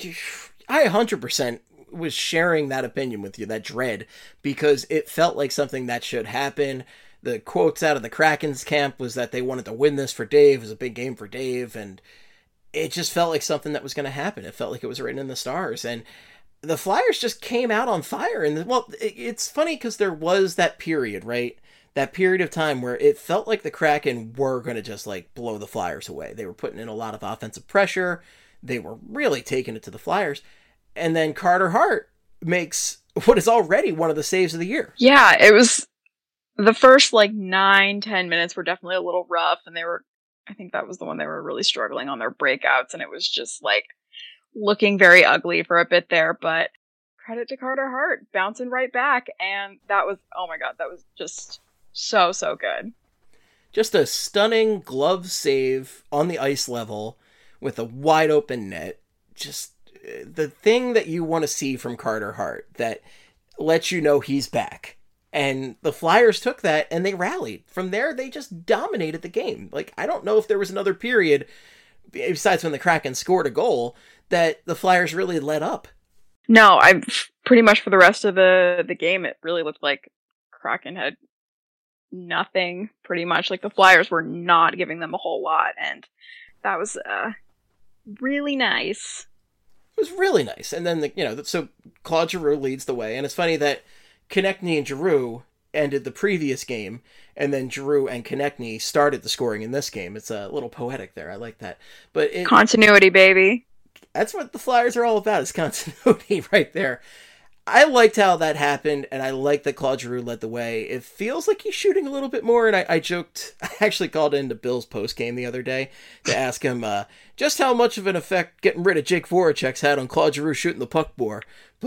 100% was sharing that opinion with you, that dread, because it felt like something that should happen. The quotes out of the Kraken's camp was that they wanted to win this for Dave. It was a big game for Dave, and it just felt like something that was going to happen. It felt like it was written in the stars, and the Flyers just came out on fire. And it's funny because there was that period, right? That period of time where it felt like the Kraken were going to just like blow the Flyers away. They were putting in a lot of offensive pressure. They were really taking it to the Flyers. And then Carter Hart makes what is already one of the saves of the year. Yeah, it was the first 9-10 minutes were definitely a little rough, and I think that was the one they were really struggling on their breakouts, and it was just looking very ugly for a bit there, but credit to Carter Hart bouncing right back, and that was, oh my god, that was just so good. Just a stunning glove save on the ice level with a wide open net. Just the thing that you want to see from Carter Hart that lets you know he's back. And the Flyers took that and they rallied. From there, they just dominated the game. I don't know if there was another period, besides when the Kraken scored a goal, that the Flyers really let up. No, I pretty much for the rest of the game, it really looked like Kraken had nothing, pretty much. The Flyers were not giving them a whole lot, and that was really nice. It was really nice. And then, so Claude Giroux leads the way, and it's funny that Konechny and Giroux ended the previous game, and then Giroux and Konechny started the scoring in this game. It's a little poetic there. I like that. But continuity, baby. That's what the Flyers are all about, is continuity right there. I liked how that happened, and I like that Claude Giroux led the way. It feels like he's shooting a little bit more, and I joked, I actually called into Bill's post-game the other day to ask him just how much of an effect getting rid of Jake Voracek's had on Claude Giroux shooting the puck more.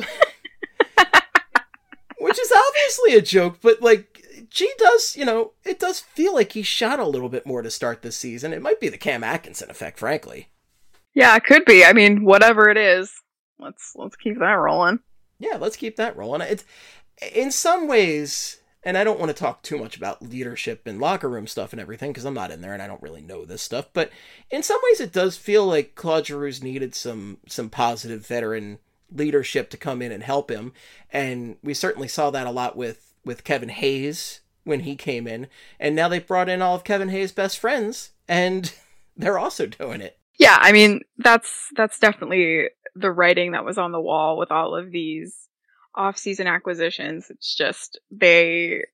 Which is obviously a joke, but G does, it does feel like he shot a little bit more to start this season. It might be the Cam Atkinson effect, frankly. Yeah, it could be. I mean, whatever it is. Let's keep that rolling. Yeah, let's keep that rolling. It's in some ways, and I don't want to talk too much about leadership and locker room stuff and everything because I'm not in there and I don't really know this stuff. But in some ways, it does feel like Claude Giroux's needed some positive veteran leadership to come in and help him, and we certainly saw that a lot with Kevin Hayes when he came in, and now they've brought in all of Kevin Hayes' best friends, and they're also doing it. Yeah, I mean, that's definitely the writing that was on the wall with all of these off-season acquisitions. It's just the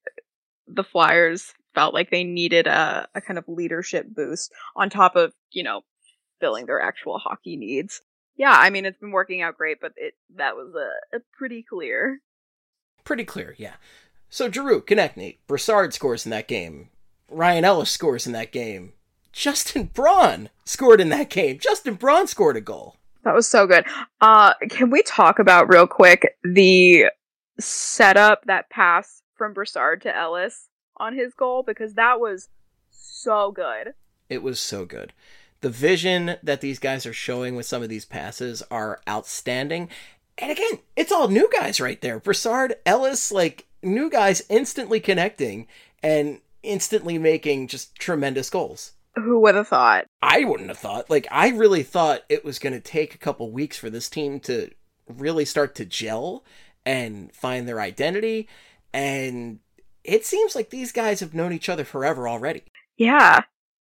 Flyers felt like they needed a kind of leadership boost on top of, filling their actual hockey needs. Yeah, I mean, it's been working out great, but that was a pretty clear. Pretty clear, yeah. So Giroux, Konechny, Brassard scores in that game. Ryan Ellis scores in that game. Justin Braun scored in that game. Justin Braun scored a goal. That was so good. Can we talk about real quick the setup, that pass from Brassard to Ellis on his goal? Because that was so good. It was so good. The vision that these guys are showing with some of these passes are outstanding. And again, it's all new guys right there. Brassard, Ellis, like new guys instantly connecting and instantly making just tremendous goals. Who would have thought? I wouldn't have thought. Like, I really thought it was going to take a couple weeks for this team to really start to gel and find their identity. And it seems like these guys have known each other forever already. Yeah.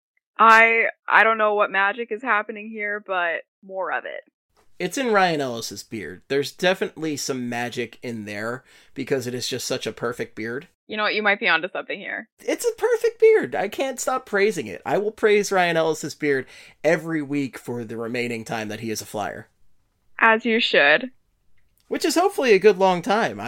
I don't know what magic is happening here, but more of it. It's in Ryan Ellis's beard. There's definitely some magic in there because it is just such a perfect beard. You know what? You might be onto something here. It's a perfect beard. I can't stop praising it. I will praise Ryan Ellis's beard every week for the remaining time that he is a Flyer. As you should. Which is hopefully a good long time.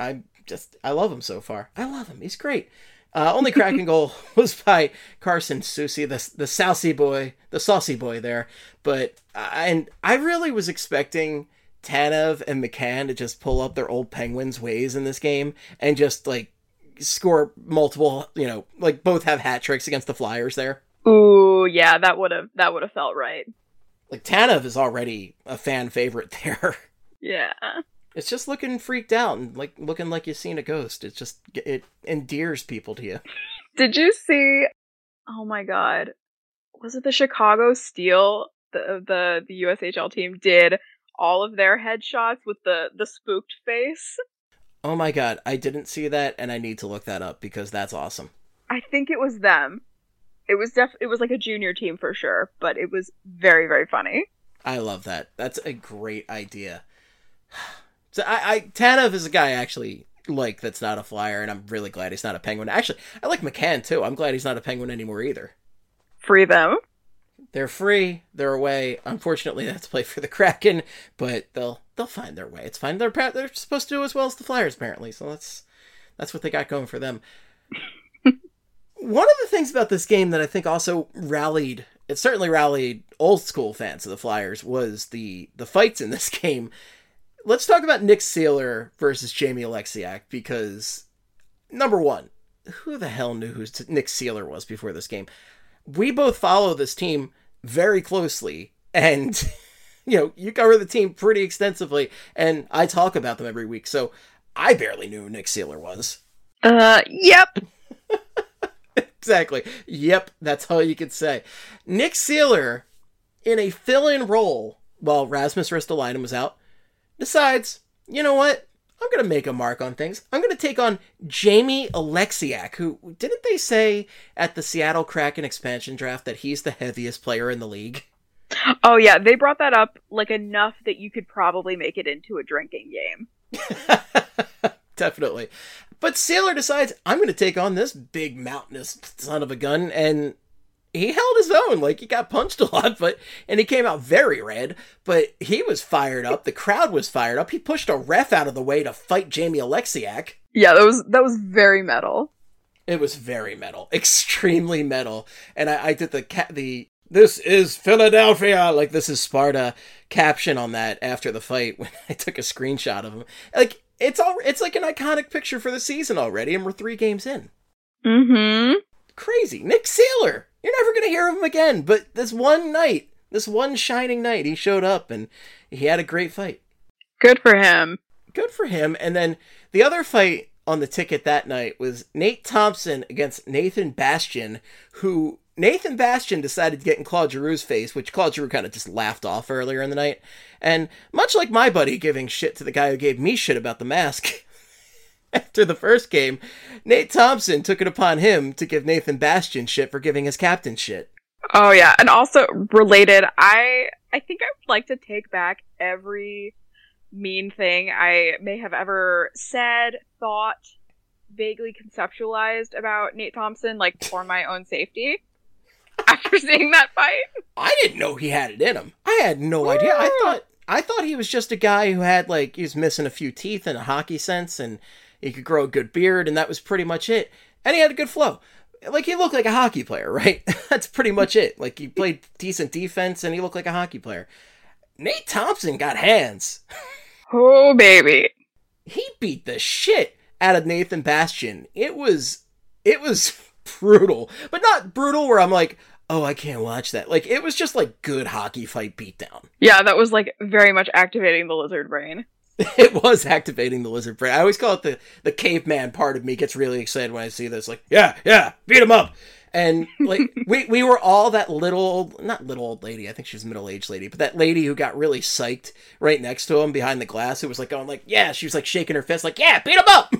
I love him so far. I love him. He's great. Only Kraken goal was by Carson Soucy, the saucy boy, the saucy boy there. But I really was expecting Tanev and McCann to just pull up their old Penguins ways in this game and just like score multiple, like both have hat tricks against the Flyers there. Ooh, yeah, that would have felt right. Like Tanev is already a fan favorite there. Yeah. It's just looking freaked out and like looking like you've seen a ghost. It endears people to you. Did you see? Oh my God, was it the Chicago Steel? The USHL team did all of their headshots with the spooked face. Oh my God, I didn't see that, and I need to look that up because that's awesome. I think it was them. It was like a junior team for sure, but it was very, very funny. I love that. That's a great idea. So Tanev is a guy I actually like that's not a Flyer, and I'm really glad he's not a Penguin. Actually, I like McCann too. I'm glad he's not a Penguin anymore either. Free them. They're free. They're away. Unfortunately, they have to play for the Kraken, but they'll find their way. It's fine. They're supposed to do as well as the Flyers apparently, so that's what they got going for them. One of the things about this game that I think also rallied old school fans of the Flyers was the fights in this game. Let's talk about Nick Seeler versus Jamie Oleksiak, because, number one, who the hell knew who Nick Seeler was before this game? We both follow this team very closely, and, you cover the team pretty extensively, and I talk about them every week, so I barely knew who Nick Seeler was. Yep. Exactly. Yep, that's all you could say. Nick Seeler, in a fill-in role, while Rasmus Ristolainen was out, decides, you know what? I'm going to make a mark on things. I'm going to take on Jamie Oleksiak, who, didn't they say at the Seattle Kraken expansion draft that he's the heaviest player in the league? Oh yeah, they brought that up like enough that you could probably make it into a drinking game. Definitely. But Seeler decides, I'm going to take on this big mountainous son of a gun, and he held his own. Like, he got punched a lot, and he came out very red, but he was fired up. The crowd was fired up. He pushed a ref out of the way to fight Jamie Oleksiak. Yeah, that was very metal. It was very metal. Extremely metal. And I did the "This is Philadelphia," like this is Sparta caption on that after the fight when I took a screenshot of him. Like, it's like an iconic picture for the season already, and we're 3 games in. Mm-hmm. Crazy. Nick Seeler. You're never going to hear of him again, but this one shining night, he showed up and he had a great fight. Good for him. Good for him. And then the other fight on the ticket that night was Nate Thompson against Nathan Bastian, who Nathan Bastian decided to get in Claude Giroux's face, which Claude Giroux kind of just laughed off earlier in the night. And much like my buddy giving shit to the guy who gave me shit about the mask after the first game, Nate Thompson took it upon him to give Nathan Bastian shit for giving his captain shit. Oh yeah, and also related, I think I would like to take back every mean thing I may have ever said, thought, vaguely conceptualized about Nate Thompson, like for my own safety. After seeing that fight, I didn't know he had it in him. I had no idea. I thought he was just a guy who had he was missing a few teeth and a hockey sense, and he could grow a good beard, and that was pretty much it. And he had a good flow. He looked like a hockey player, right? That's pretty much it. He played decent defense, and he looked like a hockey player. Nate Thompson got hands. Oh, baby. He beat the shit out of Nathan Bastian. It was brutal. But not brutal where I'm like, oh, I can't watch that. It was just good hockey fight beatdown. Yeah, that was very much activating the lizard brain. It was activating the lizard brain. I always call it the caveman part of me gets really excited when I see this. Yeah, beat him up. And we were all that not little old lady, I think she was a middle-aged lady, but that lady who got really psyched right next to him behind the glass, who was going yeah, she was shaking her fist yeah, beat him up.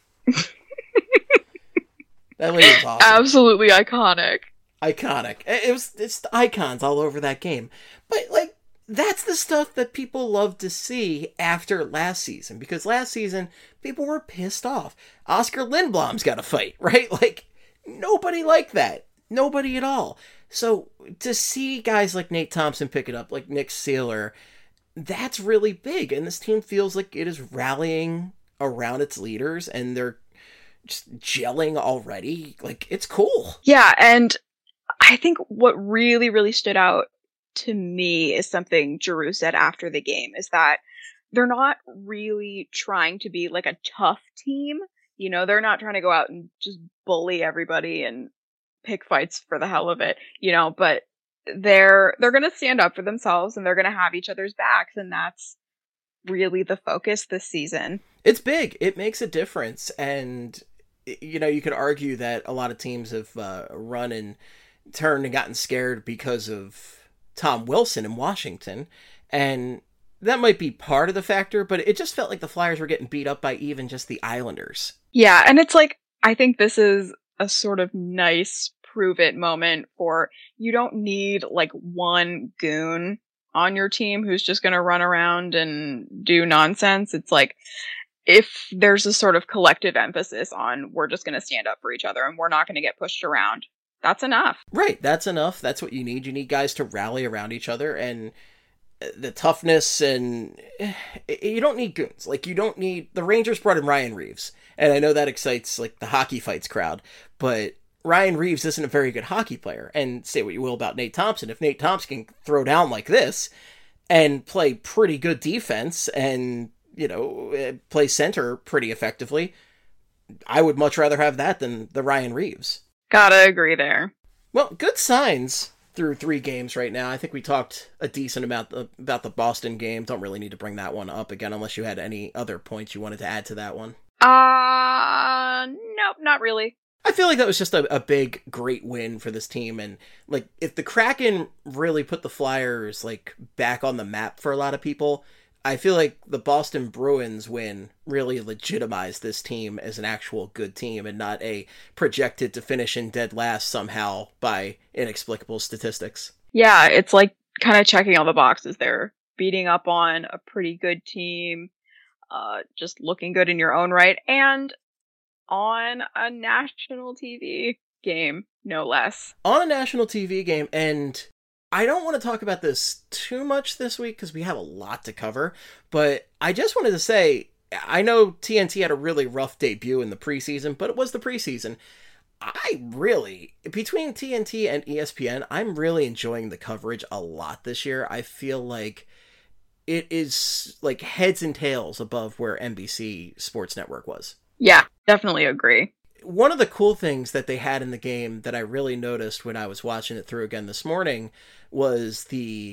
That lady was awesome. Absolutely iconic. Iconic. It's the icons all over that game. But that's the stuff that people love to see after last season, because last season people were pissed off. Oscar Lindblom's got a fight, right? Nobody liked that. Nobody at all. So to see guys like Nate Thompson pick it up, like Nick Seeler, that's really big. And this team feels like it is rallying around its leaders, and they're just gelling already. It's cool. Yeah, and I think what really, really stood out to me is something Giroux said after the game, is that they're not really trying to be a tough team. They're not trying to go out and just bully everybody and pick fights for the hell of it, but they're going to stand up for themselves, and they're going to have each other's backs. And that's really the focus this season. It's big. It makes a difference. And, you could argue that a lot of teams have run and turned and gotten scared because of Tom Wilson in Washington. And that might be part of the factor, but it just felt like the Flyers were getting beat up by even just the Islanders. Yeah, and it's I think this is a sort of nice prove it moment for, you don't need one goon on your team who's just going to run around and do nonsense. It's if there's a sort of collective emphasis on, we're just going to stand up for each other and we're not going to get pushed around, that's enough. Right, that's enough. That's what you need. You need guys to rally around each other, and the toughness, and you don't need goons. You don't need... The Rangers brought in Ryan Reeves, and I know that excites the hockey fights crowd, but Ryan Reeves isn't a very good hockey player. And say what you will about Nate Thompson, if Nate Thompson can throw down like this and play pretty good defense and play center pretty effectively, I would much rather have that than the Ryan Reeves. Gotta agree there. Well, good signs through 3 games right now. I think we talked a decent amount about the Boston game. Don't really need to bring that one up again unless you had any other points you wanted to add to that one. Nope, not really. I feel like that was just a big, great win for this team. And if the Kraken really put the Flyers back on the map for a lot of people, I feel like the Boston Bruins win really legitimized this team as an actual good team and not a projected to finish in dead last somehow by inexplicable statistics. Yeah, it's kind of checking all the boxes there. Beating up on a pretty good team, just looking good in your own right, and on a national TV game, no less. On a national TV game, and I don't want to talk about this too much this week because we have a lot to cover, but I just wanted to say, I know TNT had a really rough debut in the preseason, but it was the preseason. Between TNT and ESPN, I'm really enjoying the coverage a lot this year. I feel like it is heads and tails above where NBC Sports Network was. Yeah, definitely agree. One of the cool things that they had in the game that I really noticed when I was watching it through again this morning was the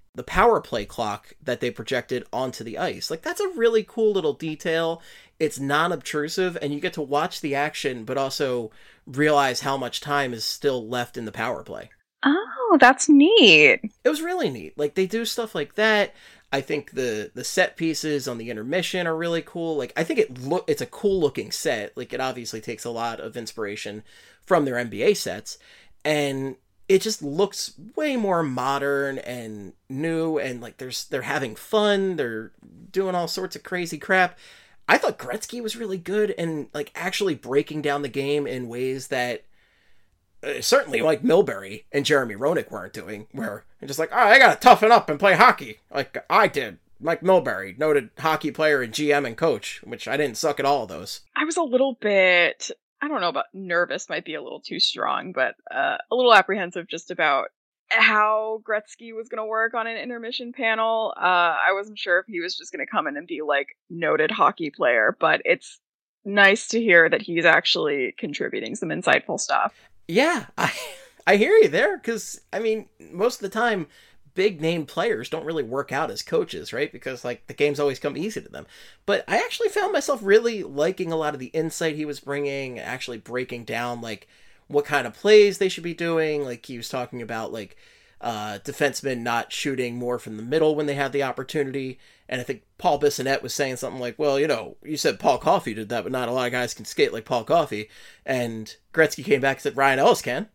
the power play clock that they projected onto the ice. Like, that's a really cool little detail. It's non-obtrusive, and you get to watch the action, but also realize how much time is still left in the power play. Oh, that's neat. It was really neat. Like, they do stuff like that. I think the set pieces on the intermission are really cool. Like, I think it's a cool looking set. Like, it obviously takes a lot of inspiration from their NBA sets, and it just looks way more modern and new, and like they're having fun. They're doing all sorts of crazy crap. I thought Gretzky was really good and like actually breaking down the game in ways that certainly like Milbury and Jeremy Roenick weren't doing, where they're just like, oh, I gotta toughen up and play hockey like I did. Mike Milbury, noted hockey player and GM and coach, which I didn't suck at all of those. I was a little bit, I don't know about nervous, might be a little too strong, but a little apprehensive just about how Gretzky was going to work on an intermission panel. I wasn't sure if he was just going to come in and be like noted hockey player, but it's nice to hear that he's actually contributing some insightful stuff. Yeah, I hear you there, because, I mean, most of the time, big name players don't really work out as coaches, right? Because, like, the games always come easy to them. But I actually found myself really liking a lot of the insight he was bringing, actually breaking down, like, what kind of plays they should be doing. Like, he was talking about, like, defensemen not shooting more from the middle when they had the opportunity. And I think Paul Bissonnette was saying something like, well, you know, you said Paul Coffey did that, but not a lot of guys can skate like Paul Coffey. And Gretzky came back and said, Ryan Ellis can.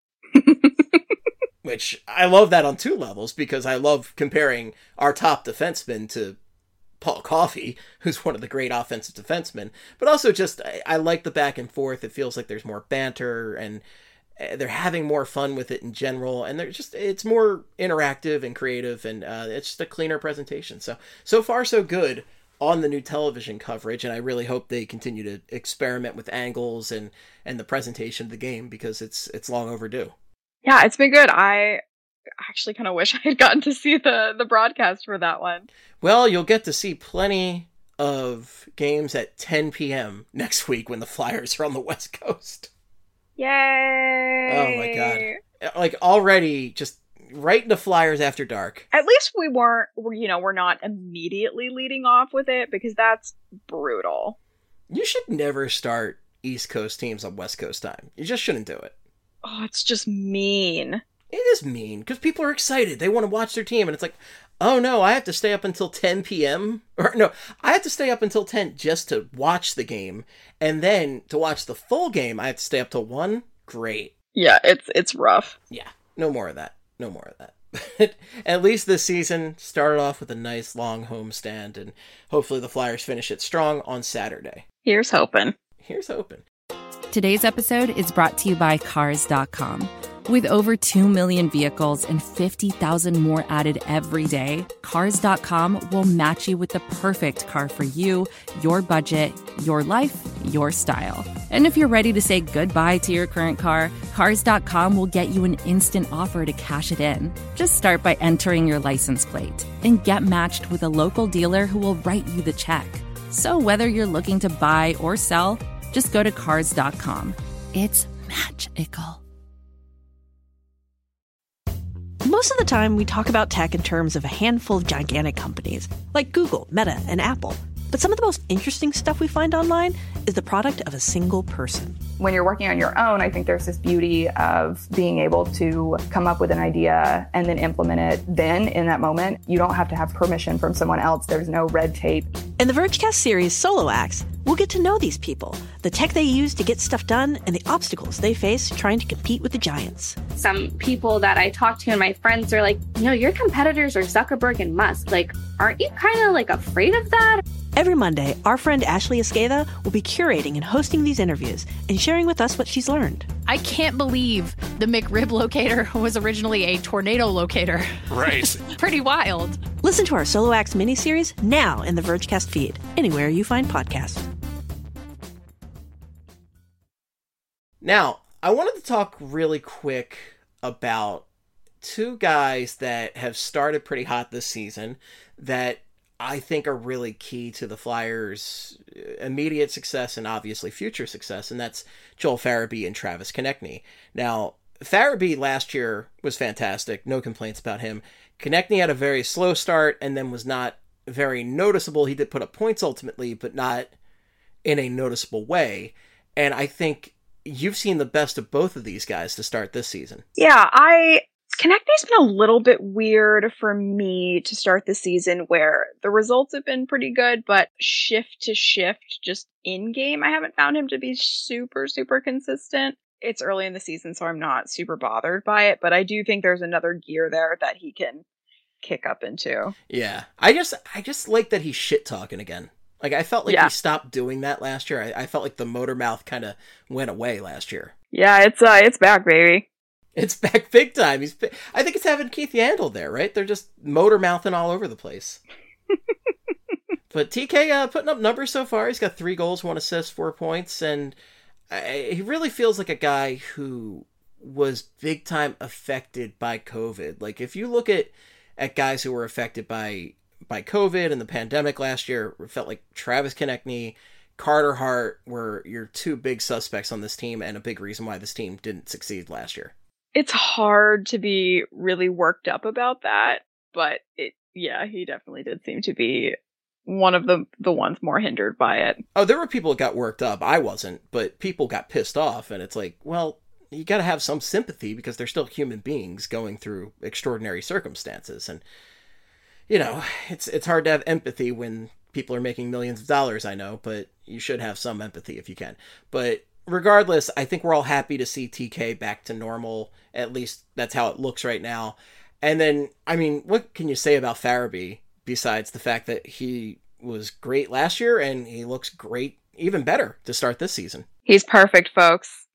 Which I love that on two levels, because I love comparing our top defenseman to Paul Coffey, who's one of the great offensive defensemen. But also just, I like the back and forth. It feels like there's more banter, and they're having more fun with it in general, and it's more interactive and creative, and it's just a cleaner presentation. So far so good on the new television coverage, and I really hope they continue to experiment with angles and the presentation of the game, because it's long overdue. Yeah, it's been good. I actually kind of wish I had gotten to see the broadcast for that one. Well, you'll get to see plenty of games at 10 p.m. next week when the Flyers are on the West Coast. Yay! Oh my god. Like, already just right into Flyers After Dark. At least we're not immediately leading off with it, because that's brutal. You should never start East Coast teams on West Coast time. You just shouldn't do it. Oh, it's just mean. It is mean, because people are excited. They want to watch their team, and it's like, oh no, I have to stay up until 10 p.m. Or no, I have to stay up until 10 just to watch the game, and then to watch the full game, I have to stay up till 1? Great. Yeah, it's rough. Yeah, no more of that. No more of that. At least this season started off with a nice long homestand, and hopefully the Flyers finish it strong on Saturday. Here's hoping. Here's hoping. Today's episode is brought to you by Cars.com. With over 2 million vehicles and 50,000 more added every day, Cars.com will match you with the perfect car for you, your budget, your life, your style. And if you're ready to say goodbye to your current car, Cars.com will get you an instant offer to cash it in. Just start by entering your license plate and get matched with a local dealer who will write you the check. So whether you're looking to buy or sell, just go to Cars.com. It's magical. Most of the time, we talk about tech in terms of a handful of gigantic companies, like Google, Meta, and Apple. But some of the most interesting stuff we find online is the product of a single person. When you're working on your own, I think there's this beauty of being able to come up with an idea and then implement it then in that moment. You don't have to have permission from someone else. There's no red tape. In the Vergecast series Solo Acts, we'll get to know these people, the tech they use to get stuff done, and the obstacles they face trying to compete with the giants. Some people that I talk to and my friends are like, your competitors are Zuckerberg and Musk. Like, aren't you kind of like afraid of that? Every Monday, our friend Ashley Esqueda will be curating and hosting these interviews and sharing with us what she's learned. I can't believe the McRib locator was originally a tornado locator. Right. Pretty wild. Listen to our Solo Acts miniseries now in the Vergecast feed, anywhere you find podcasts. Now, I wanted to talk really quick about two guys that have started pretty hot this season that I think are really key to the Flyers' immediate success and obviously future success, and that's Joel Farabee and Travis Konecny. Now, Farabee last year was fantastic. No complaints about him. Konechny had a very slow start and then was not very noticeable. He did put up points ultimately, but not in a noticeable way. And I think you've seen the best of both of these guys to start this season. Yeah, Konechny's been a little bit weird for me to start the season, where the results have been pretty good, but shift to shift, just in-game, I haven't found him to be super, super consistent. It's early in the season, so I'm not super bothered by it, but I do think there's another gear there that he can kick up into. Yeah. I just like that he's shit-talking again. Like, I felt like he stopped doing that last year. I felt like the motor mouth kind of went away last year. Yeah, it's back, baby. It's back big time. I think it's having Keith Yandel there, right? They're just motor mouthing all over the place. But TK putting up numbers so far. He's got 3 goals, 1 assist, 4 points, and he really feels like a guy who was big time affected by COVID. Like, if you look at guys who were affected by COVID and the pandemic last year, it felt like Travis Konechny, Carter Hart were your 2 big suspects on this team, and a big reason why this team didn't succeed last year. It's hard to be really worked up about that, but he definitely did seem to be one of the ones more hindered by it. Oh, there were people that got worked up. I wasn't, but people got pissed off, and it's like, well, you got to have some sympathy because they're still human beings going through extraordinary circumstances. And, you know, it's hard to have empathy when people are making millions of dollars, I know, but you should have some empathy if you can. But regardless, I think we're all happy to see TK back to normal. At least that's how it looks right now. And then, I mean, what can you say about Farabee besides the fact that he was great last year and he looks great, even better, to start this season? He's perfect, folks.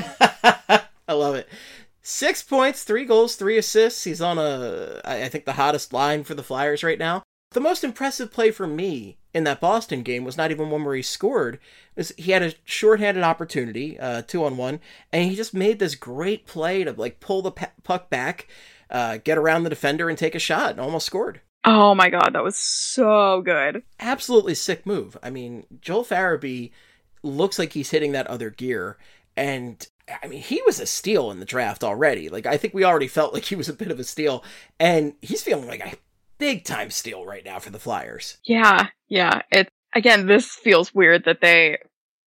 I love it. 6 points, 3 goals, 3 assists. He's on I think the hottest line for the Flyers right now. The most impressive play for me in that Boston game was not even one where he scored. He had a shorthanded opportunity, 2-on-1, and he just made this great play to like pull the puck back, get around the defender and take a shot, and almost scored. Oh my god, that was so good. Absolutely sick move. I mean, Joel Farabee looks like he's hitting that other gear, and I mean, he was a steal in the draft already. Like, I think we already felt like he was a bit of a steal, and he's feeling like a big time steal right now for the Flyers. Yeah. Again, this feels weird that they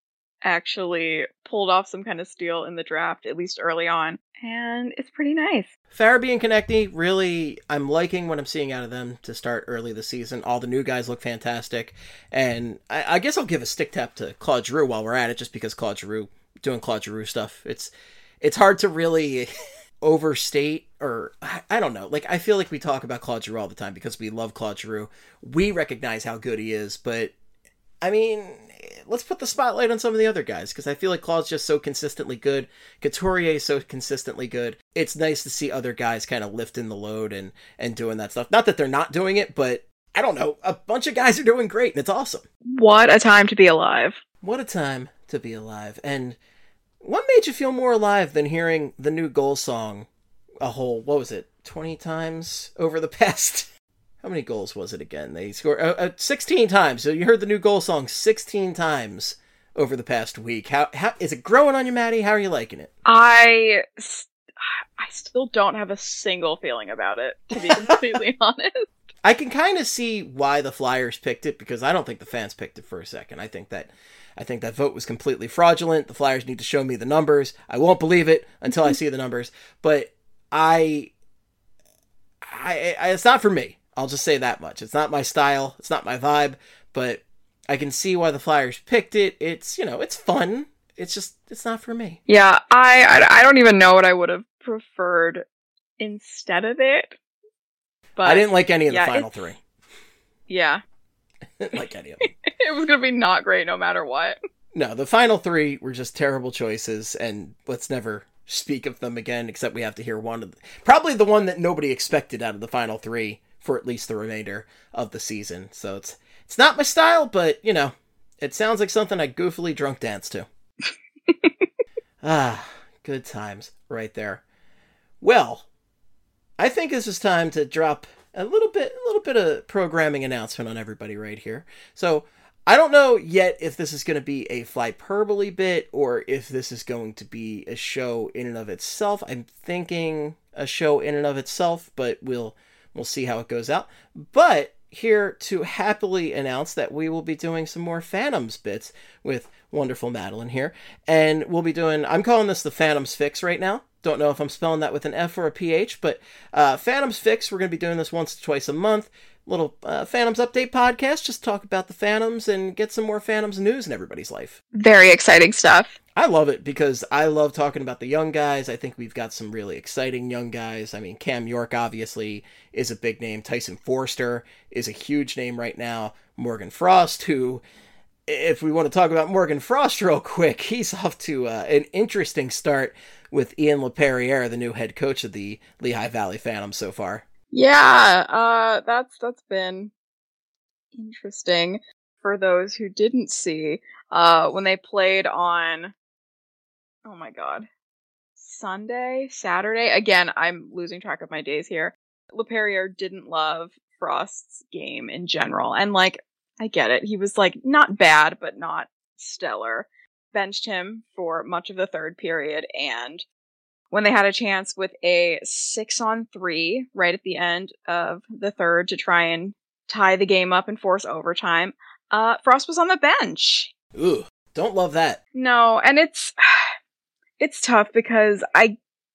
actually pulled off some kind of steal in the draft, at least early on, and it's pretty nice. Farabee and Konechny, really, I'm liking what I'm seeing out of them to start early this season. All the new guys look fantastic, and I guess I'll give a stick tap to Claude Giroux while we're at it, just because Claude Giroux stuff. It's hard to really overstate, or I don't know. Like, I feel like we talk about Claude Giroux all the time because we love Claude Giroux. We recognize how good he is, but I mean, let's put the spotlight on some of the other guys, because I feel like Claude's just so consistently good. Couturier is so consistently good. It's nice to see other guys kind of lifting the load and doing that stuff. Not that they're not doing it, but I don't know. A bunch of guys are doing great, and it's awesome. What a time to be alive. What a time to be alive. And what made you feel more alive than hearing the new goal song a whole, 20 times over the past... How many goals was it again? They scored 16 times. So you heard the new goal song 16 times over the past week. How is it growing on you, Maddie? How are you liking it? I still don't have a single feeling about it, to be completely honest. I can kind of see why the Flyers picked it, because I don't think the fans picked it for a second. I think that vote was completely fraudulent. The Flyers need to show me the numbers. I won't believe it until I see the numbers. But I it's not for me. I'll just say that much. It's not my style. It's not my vibe, but I can see why the Flyers picked it. It's, it's fun. It's not for me. Yeah, I don't even know what I would have preferred instead of it. But I didn't like any of the final 3. Yeah. I didn't like any of them. It was going to be not great no matter what. No, the final 3 were just terrible choices, and let's never speak of them again, except we have to hear one of them. Probably the one that nobody expected out of the final 3. For at least the remainder of the season. So it's not my style, but, it sounds like something I goofily drunk dance to. Good times right there. Well, I think this is time to drop a little bit of programming announcement on everybody right here. So I don't know yet if this is going to be a Flyperbole bit or if this is going to be a show in and of itself. I'm thinking a show in and of itself, but we'll see how it goes out. But here to happily announce that we will be doing some more Phantoms bits with wonderful Madeline here. And we'll be doing, I'm calling this the Phantoms Fix right now. Don't know if I'm spelling that with an F or a PH, but Phantoms Fix, we're going to be doing this once or twice a month. Little Phantoms Update podcast, just talk about the Phantoms and get some more Phantoms news in everybody's life. Very exciting stuff. I love it because I love talking about the young guys. I think we've got some really exciting young guys. I mean, Cam York obviously is a big name. Tyson Forster is a huge name right now. Morgan Frost, who, if we want to talk about Morgan Frost real quick, he's off to an interesting start with Ian LePerriere, the new head coach of the Lehigh Valley Phantoms so far. Yeah, that's been interesting for those who didn't see when they played on, oh my god, Saturday. Again, I'm losing track of my days here. LePerriere didn't love Frost's game in general, and like, I get it. He was like not bad, but not stellar. Benched him for much of the third period, and when they had a chance with a 6-on-3 right at the end of the third to try and tie the game up and force overtime, Frost was on the bench. Ooh, don't love that. No, and it's tough because I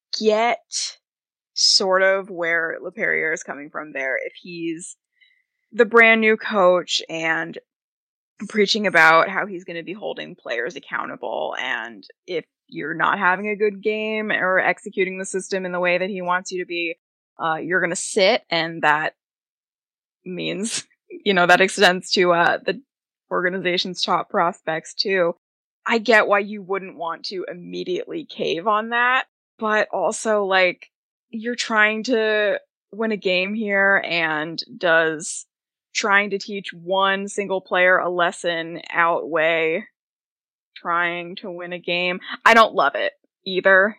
get sort of where LePerriere is coming from there. If he's the brand new coach and preaching about how he's going to be holding players accountable, and if you're not having a good game or executing the system in the way that he wants you to be, you're going to sit, and that means, that extends to the organization's top prospects too. I get why you wouldn't want to immediately cave on that, but also, like, you're trying to win a game here, and does trying to teach one single player a lesson outweigh trying to win a game? I don't love it either,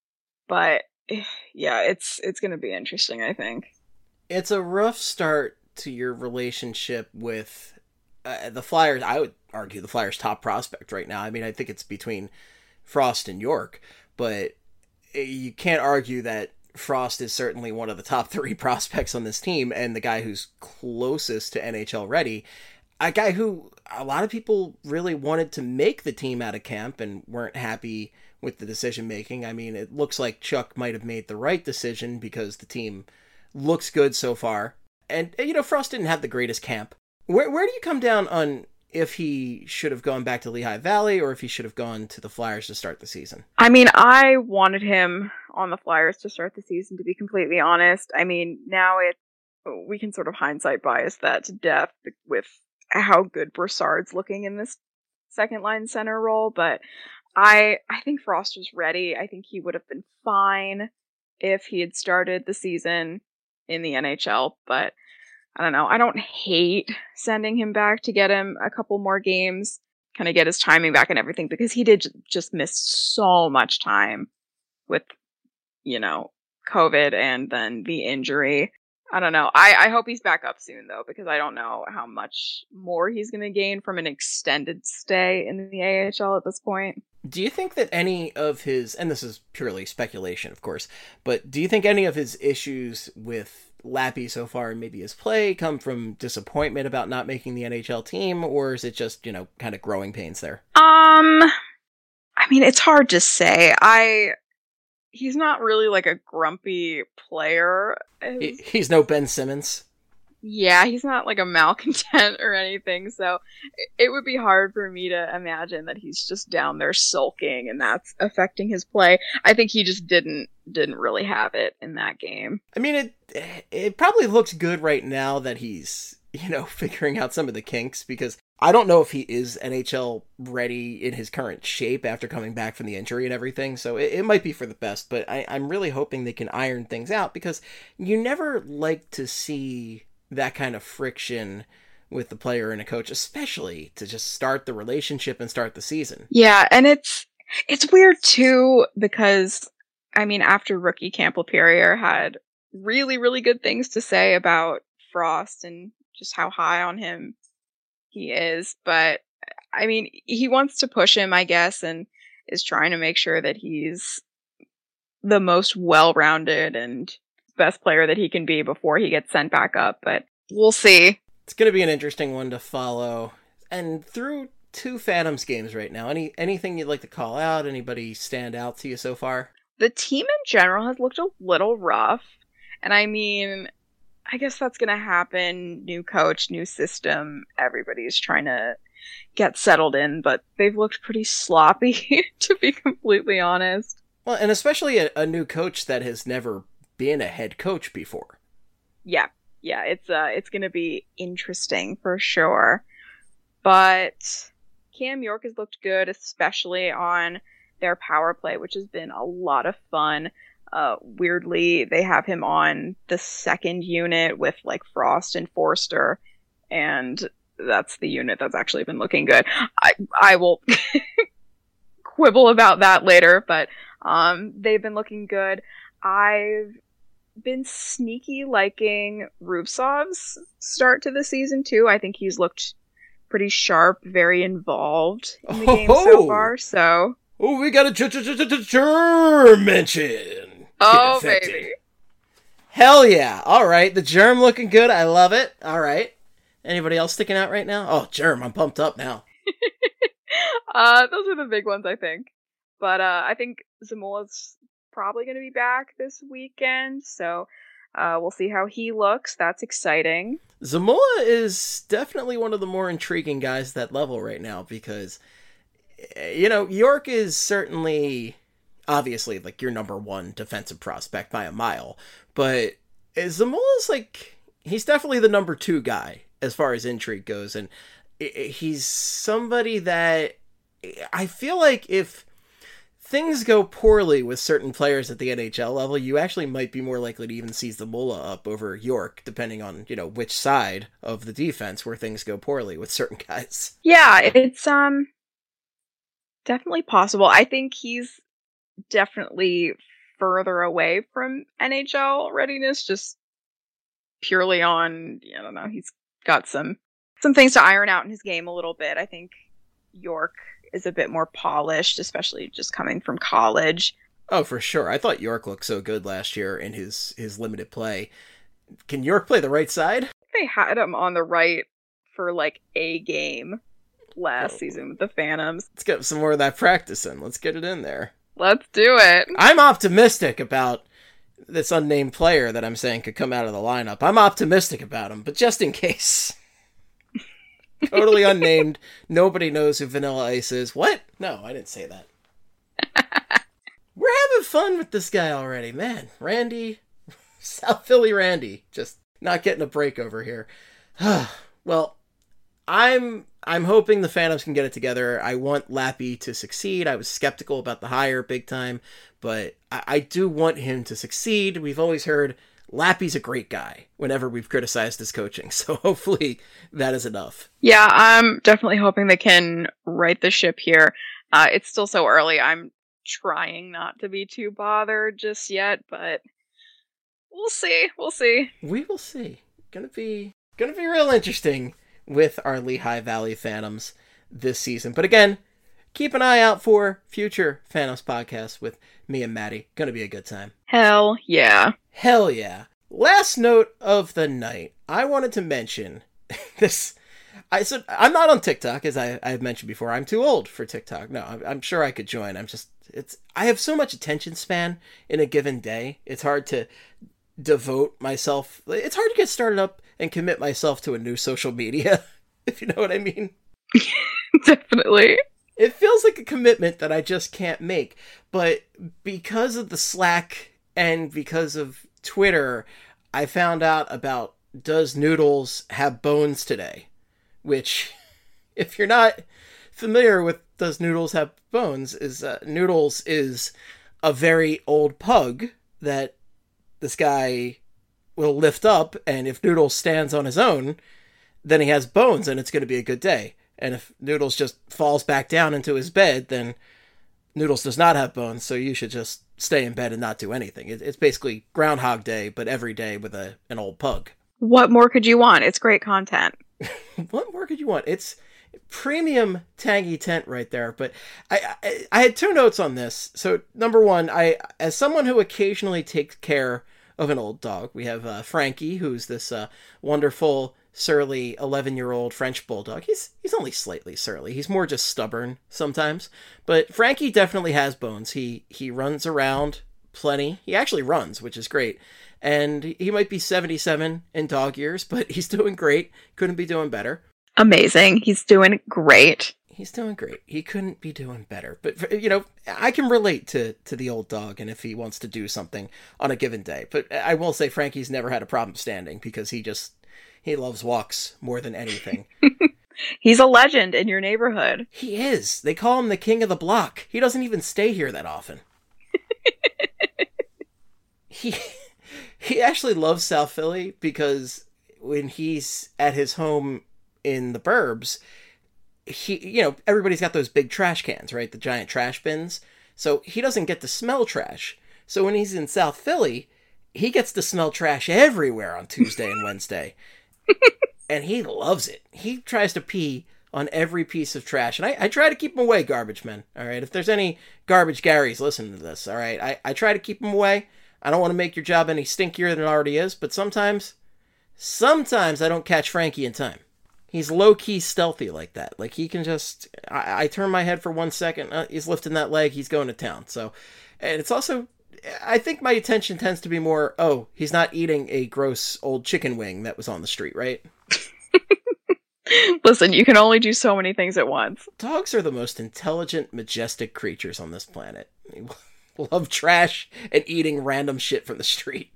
but yeah, it's going to be interesting, I think. It's a rough start to your relationship with the Flyers. I would argue the Flyers' top prospect right now. I mean, I think it's between Frost and York, but you can't argue that Frost is certainly one of the top 3 prospects on this team, and the guy who's closest to NHL ready. A guy who a lot of people really wanted to make the team out of camp and weren't happy with the decision making. I mean, it looks like Chuck might have made the right decision because the team looks good so far. And, Frost didn't have the greatest camp. Where do you come down on if he should have gone back to Lehigh Valley or if he should have gone to the Flyers to start the season? I mean, I wanted him on the Flyers to start the season, to be completely honest. I mean, now we can sort of hindsight bias that to death with how good Brassard's looking in this second line center role, but I think Frost was ready. I think he would have been fine if he had started the season in the NHL, but I don't know. I don't hate sending him back to get him a couple more games, kind of get his timing back and everything, because he did just miss so much time with, COVID and then the injury. I don't know. I hope he's back up soon, though, because I don't know how much more he's going to gain from an extended stay in the AHL at this point. Do you think that any of his, and this is purely speculation, of course, but do you think any of his issues with Lappy so far and maybe his play come from disappointment about not making the NHL team, or is it just, kind of growing pains there? I mean, it's hard to say. He's not really like a grumpy player. He's no Ben Simmons. Yeah, he's not like a malcontent or anything, so it would be hard for me to imagine that he's just down there sulking and that's affecting his play. I think he just didn't really have it in that game. I mean, it probably looks good right now that he's, figuring out some of the kinks, because I don't know if he is NHL ready in his current shape after coming back from the injury and everything, so it might be for the best, but I'm really hoping they can iron things out, because you never like to see that kind of friction with the player and a coach, especially to just start the relationship and start the season. Yeah, and it's weird too, because, I mean, after rookie camp, LePerriere had really, really good things to say about Frost and just how high on him He is, but I mean, he wants to push him, I guess, and is trying to make sure that he's the most well-rounded and best player that he can be before he gets sent back up, but we'll see. It's going to be an interesting one to follow. And through 2 Phantoms games right now, anything you'd like to call out? Anybody stand out to you so far? The team in general has looked a little rough, and I mean, I guess that's going to happen. New coach, new system, everybody's trying to get settled in, but they've looked pretty sloppy, to be completely honest. Well, and especially a new coach that has never been a head coach before. Yeah, it's going to be interesting for sure. But Cam York has looked good, especially on their power play, which has been a lot of fun. Weirdly, they have him on the second unit with like Frost and Forster, and that's the unit that's actually been looking good. I will quibble about that later, but they've been looking good. I've been sneaky liking Rubtsov's start to the season too. I think he's looked pretty sharp, very involved in the game so far. So, we got a germ mention. Oh baby, hell yeah! All right, the germ looking good. I love it. All right, anybody else sticking out right now? Oh, germ, I'm pumped up now. Those are the big ones, I think. But I think Zamula's probably going to be back this weekend, so we'll see how he looks. That's exciting. Zamula is definitely one of the more intriguing guys at that level right now because, York is certainly, obviously, like your number 1 defensive prospect by a mile, but Zamula's he's definitely the number 2 guy as far as intrigue goes, and he's somebody that I feel like if things go poorly with certain players at the NHL level, you actually might be more likely to even see Zamula up over York, depending on, which side of the defense where things go poorly with certain guys. Yeah, it's definitely possible. I think he's definitely further away from NHL readiness, just purely on, I don't know, he's got some things to iron out in his game a little bit. I think York is a bit more polished, especially just coming from college. Oh, for sure. I thought York looked so good last year in his limited play. Can York play the right side? They had him on the right for a game last season with the Phantoms. Let's get some more of that practice in. Let's get it in there. Let's do it. I'm optimistic about this unnamed player that I'm saying could come out of the lineup. I'm optimistic about him, but just in case. Totally unnamed. Nobody knows who Vanilla Ice is. What? No, I didn't say that. We're having fun with this guy already, man. Randy, South Philly Randy, just not getting a break over here. Well, I'm hoping the Phantoms can get it together. I want Lappy to succeed. I was skeptical about the hire big time, but I do want him to succeed. We've always heard Lappy's a great guy whenever we've criticized his coaching, so hopefully that is enough. Yeah, I'm definitely hoping they can right the ship here. It's still so early. I'm trying not to be too bothered just yet, but we'll see. We will see. Gonna be real interesting with our Lehigh Valley Phantoms this season. But again, keep an eye out for future Phantoms podcasts with me and Maddie. Gonna be a good time. Hell yeah. Hell yeah. Last note of the night. I wanted to mention this. I'm not on TikTok, as I've mentioned before. I'm too old for TikTok. No, I'm sure I could join. I have so much attention span in a given day. It's hard to devote myself. It's hard to get started up and commit myself to a new social media, if you know what I mean. Definitely. It feels like a commitment that I just can't make. But because of the Slack and because of Twitter, I found out about Does Noodles Have Bones Today? Which, if you're not familiar with Does Noodles Have Bones, is Noodles is a very old pug that this guy will lift up, and if Noodles stands on his own, then he has bones and it's going to be a good day. And if Noodles just falls back down into his bed, then Noodles does not have bones, so you should just stay in bed and not do anything. It's basically Groundhog Day, but every day with an old pug. What more could you want? It's great content. What more could you want? It's premium tangy tent right there. But I had two notes on this. So number one, as someone who occasionally takes care of an old dog, we have Frankie, who's this wonderful, surly 11-year-old French bulldog. He's only slightly surly. He's more just stubborn sometimes. But Frankie definitely has bones. He runs around plenty. He actually runs, which is great. And he might be 77 in dog years, but he's doing great. Couldn't be doing better. Amazing. He's doing great. He's doing great. He couldn't be doing better. But, you know, I can relate to the old dog and if he wants to do something on a given day. But I will say Frankie's never had a problem standing because he loves walks more than anything. He's a legend in your neighborhood. He is. They call him the king of the block. He doesn't even stay here that often. He actually loves South Philly because when he's at his home in the burbs, everybody's got those big trash cans, right? The giant trash bins. So he doesn't get to smell trash. So when he's in South Philly, he gets to smell trash everywhere on Tuesday and Wednesday. And he loves it. He tries to pee on every piece of trash. And I try to keep him away, garbage men. All right. If there's any garbage Garys listening to this, all right, I try to keep him away. I don't want to make your job any stinkier than it already is, but sometimes I don't catch Frankie in time. He's low-key stealthy like that. Like, he can just... I turn my head for 1 second, he's lifting that leg, he's going to town. So, and it's also... I think my attention tends to be more, he's not eating a gross old chicken wing that was on the street, right? Listen, you can only do so many things at once. Dogs are the most intelligent, majestic creatures on this planet. They love trash and eating random shit from the street.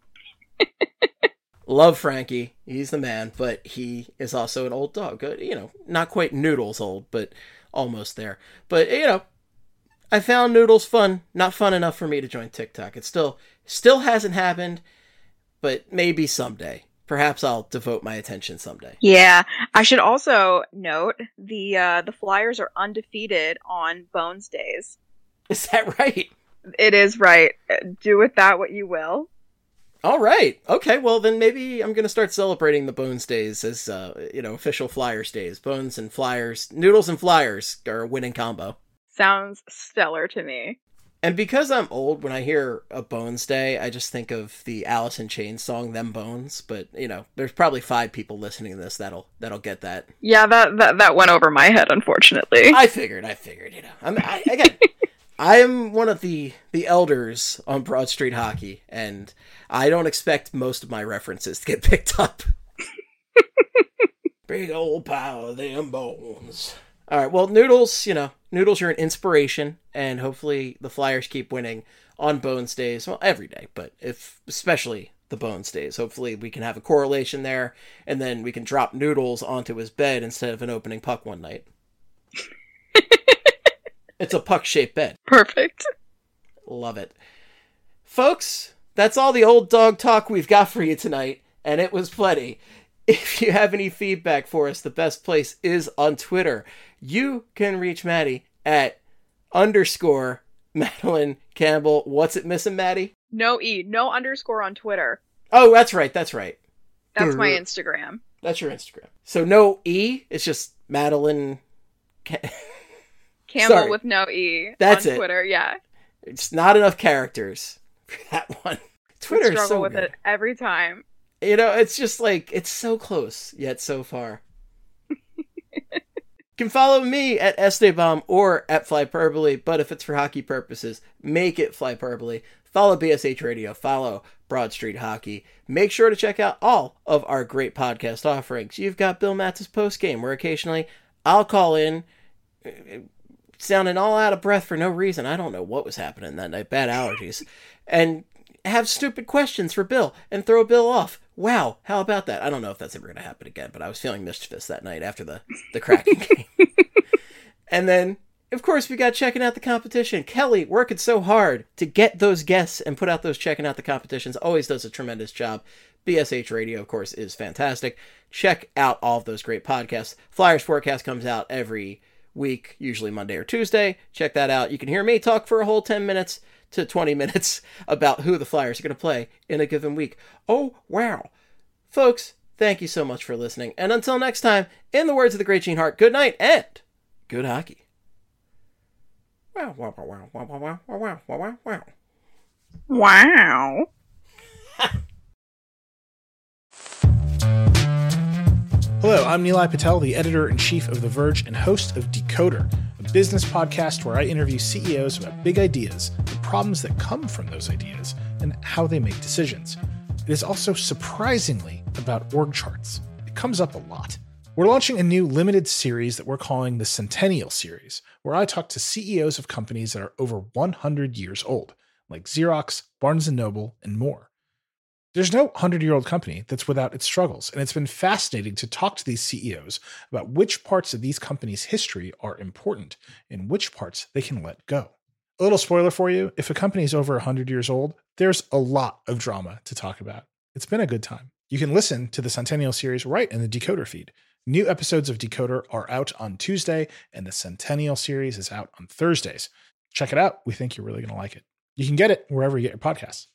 Love Frankie. He's the man, but he is also an old dog. You know, not quite Noodles old, but almost there. But, you know, I found Noodles fun. Not fun enough for me to join TikTok. It still hasn't happened, but maybe someday. Perhaps I'll devote my attention someday. Yeah. I should also note the Flyers are undefeated on Bones Days. Is that right? It is right. Do with that what you will. All right. Okay, well, then maybe I'm going to start celebrating the Bones Days as, official Flyers days. Bones and Flyers. Noodles and Flyers are a winning combo. Sounds stellar to me. And because I'm old, when I hear a Bones Day, I just think of the Alice in Chains song, Them Bones. But, you know, there's probably 5 people listening to this that'll get that. Yeah, that went over my head, unfortunately. I figured, you know. Again... I am one of the elders on Broad Street Hockey, and I don't expect most of my references to get picked up. Big old pile of them bones. All right, well, Noodles, Noodles are an inspiration, and hopefully the Flyers keep winning on Bones Days. Well, every day, but especially the Bones Days. Hopefully we can have a correlation there, and then we can drop Noodles onto his bed instead of an opening puck one night. It's a puck-shaped bed. Perfect. Love it. Folks, that's all the old dog talk we've got for you tonight, and it was plenty. If you have any feedback for us, the best place is on Twitter. You can reach Maddie at _Madeline Campbell. What's it missing, Maddie? No underscore on Twitter. Oh, that's right. That's my Instagram. That's your Instagram. So no E, it's just Madeline... Campbell Sorry. with no E. That's on Twitter, yeah. It's not enough characters for that one. Twitter's struggle so with good. it every time. You know, it's just like, it's so close, yet so far. You can follow me at Esteban or at Flyperbole, but if it's for hockey purposes, make it Flyperbole. Follow BSH Radio, follow Broad Street Hockey. Make sure to check out all of our great podcast offerings. You've got Bill Matz's Postgame, where occasionally I'll call in, sounding all out of breath for no reason. I don't know what was happening that night. Bad allergies. And have stupid questions for Bill and throw Bill off. Wow, how about that? I don't know if that's ever going to happen again, but I was feeling mischievous that night after the Kraken game. And then, of course, we got Checking Out the Competition. Kelly working so hard to get those guests and put out those Checking Out the Competitions. Always does a tremendous job. BSH Radio, of course, is fantastic. Check out all of those great podcasts. Flyers Forecast comes out every week, usually Monday or Tuesday. Check that out. You can hear me talk for a whole 10 minutes to 20 minutes about who the Flyers are going to play in a given week. Oh, wow. Folks, Thank you so much for listening. And until next time, in the words of the great Gene Hart, good night and good hockey. Wow, wow, wow, wow, wow, wow, wow, wow, wow. Wow. Hello, I'm Nilay Patel, the editor-in-chief of The Verge and host of Decoder, a business podcast where I interview CEOs about big ideas, the problems that come from those ideas, and how they make decisions. It is also surprisingly about org charts. It comes up a lot. We're launching a new limited series that we're calling the Centennial Series, where I talk to CEOs of companies that are over 100 years old, like Xerox, Barnes & Noble, and more. There's no 100-year-old company that's without its struggles, and it's been fascinating to talk to these CEOs about which parts of these companies' history are important and which parts they can let go. A little spoiler for you, if a company is over 100 years old, there's a lot of drama to talk about. It's been a good time. You can listen to the Centennial Series right in the Decoder feed. New episodes of Decoder are out on Tuesday, and the Centennial Series is out on Thursdays. Check it out. We think you're really going to like it. You can get it wherever you get your podcasts.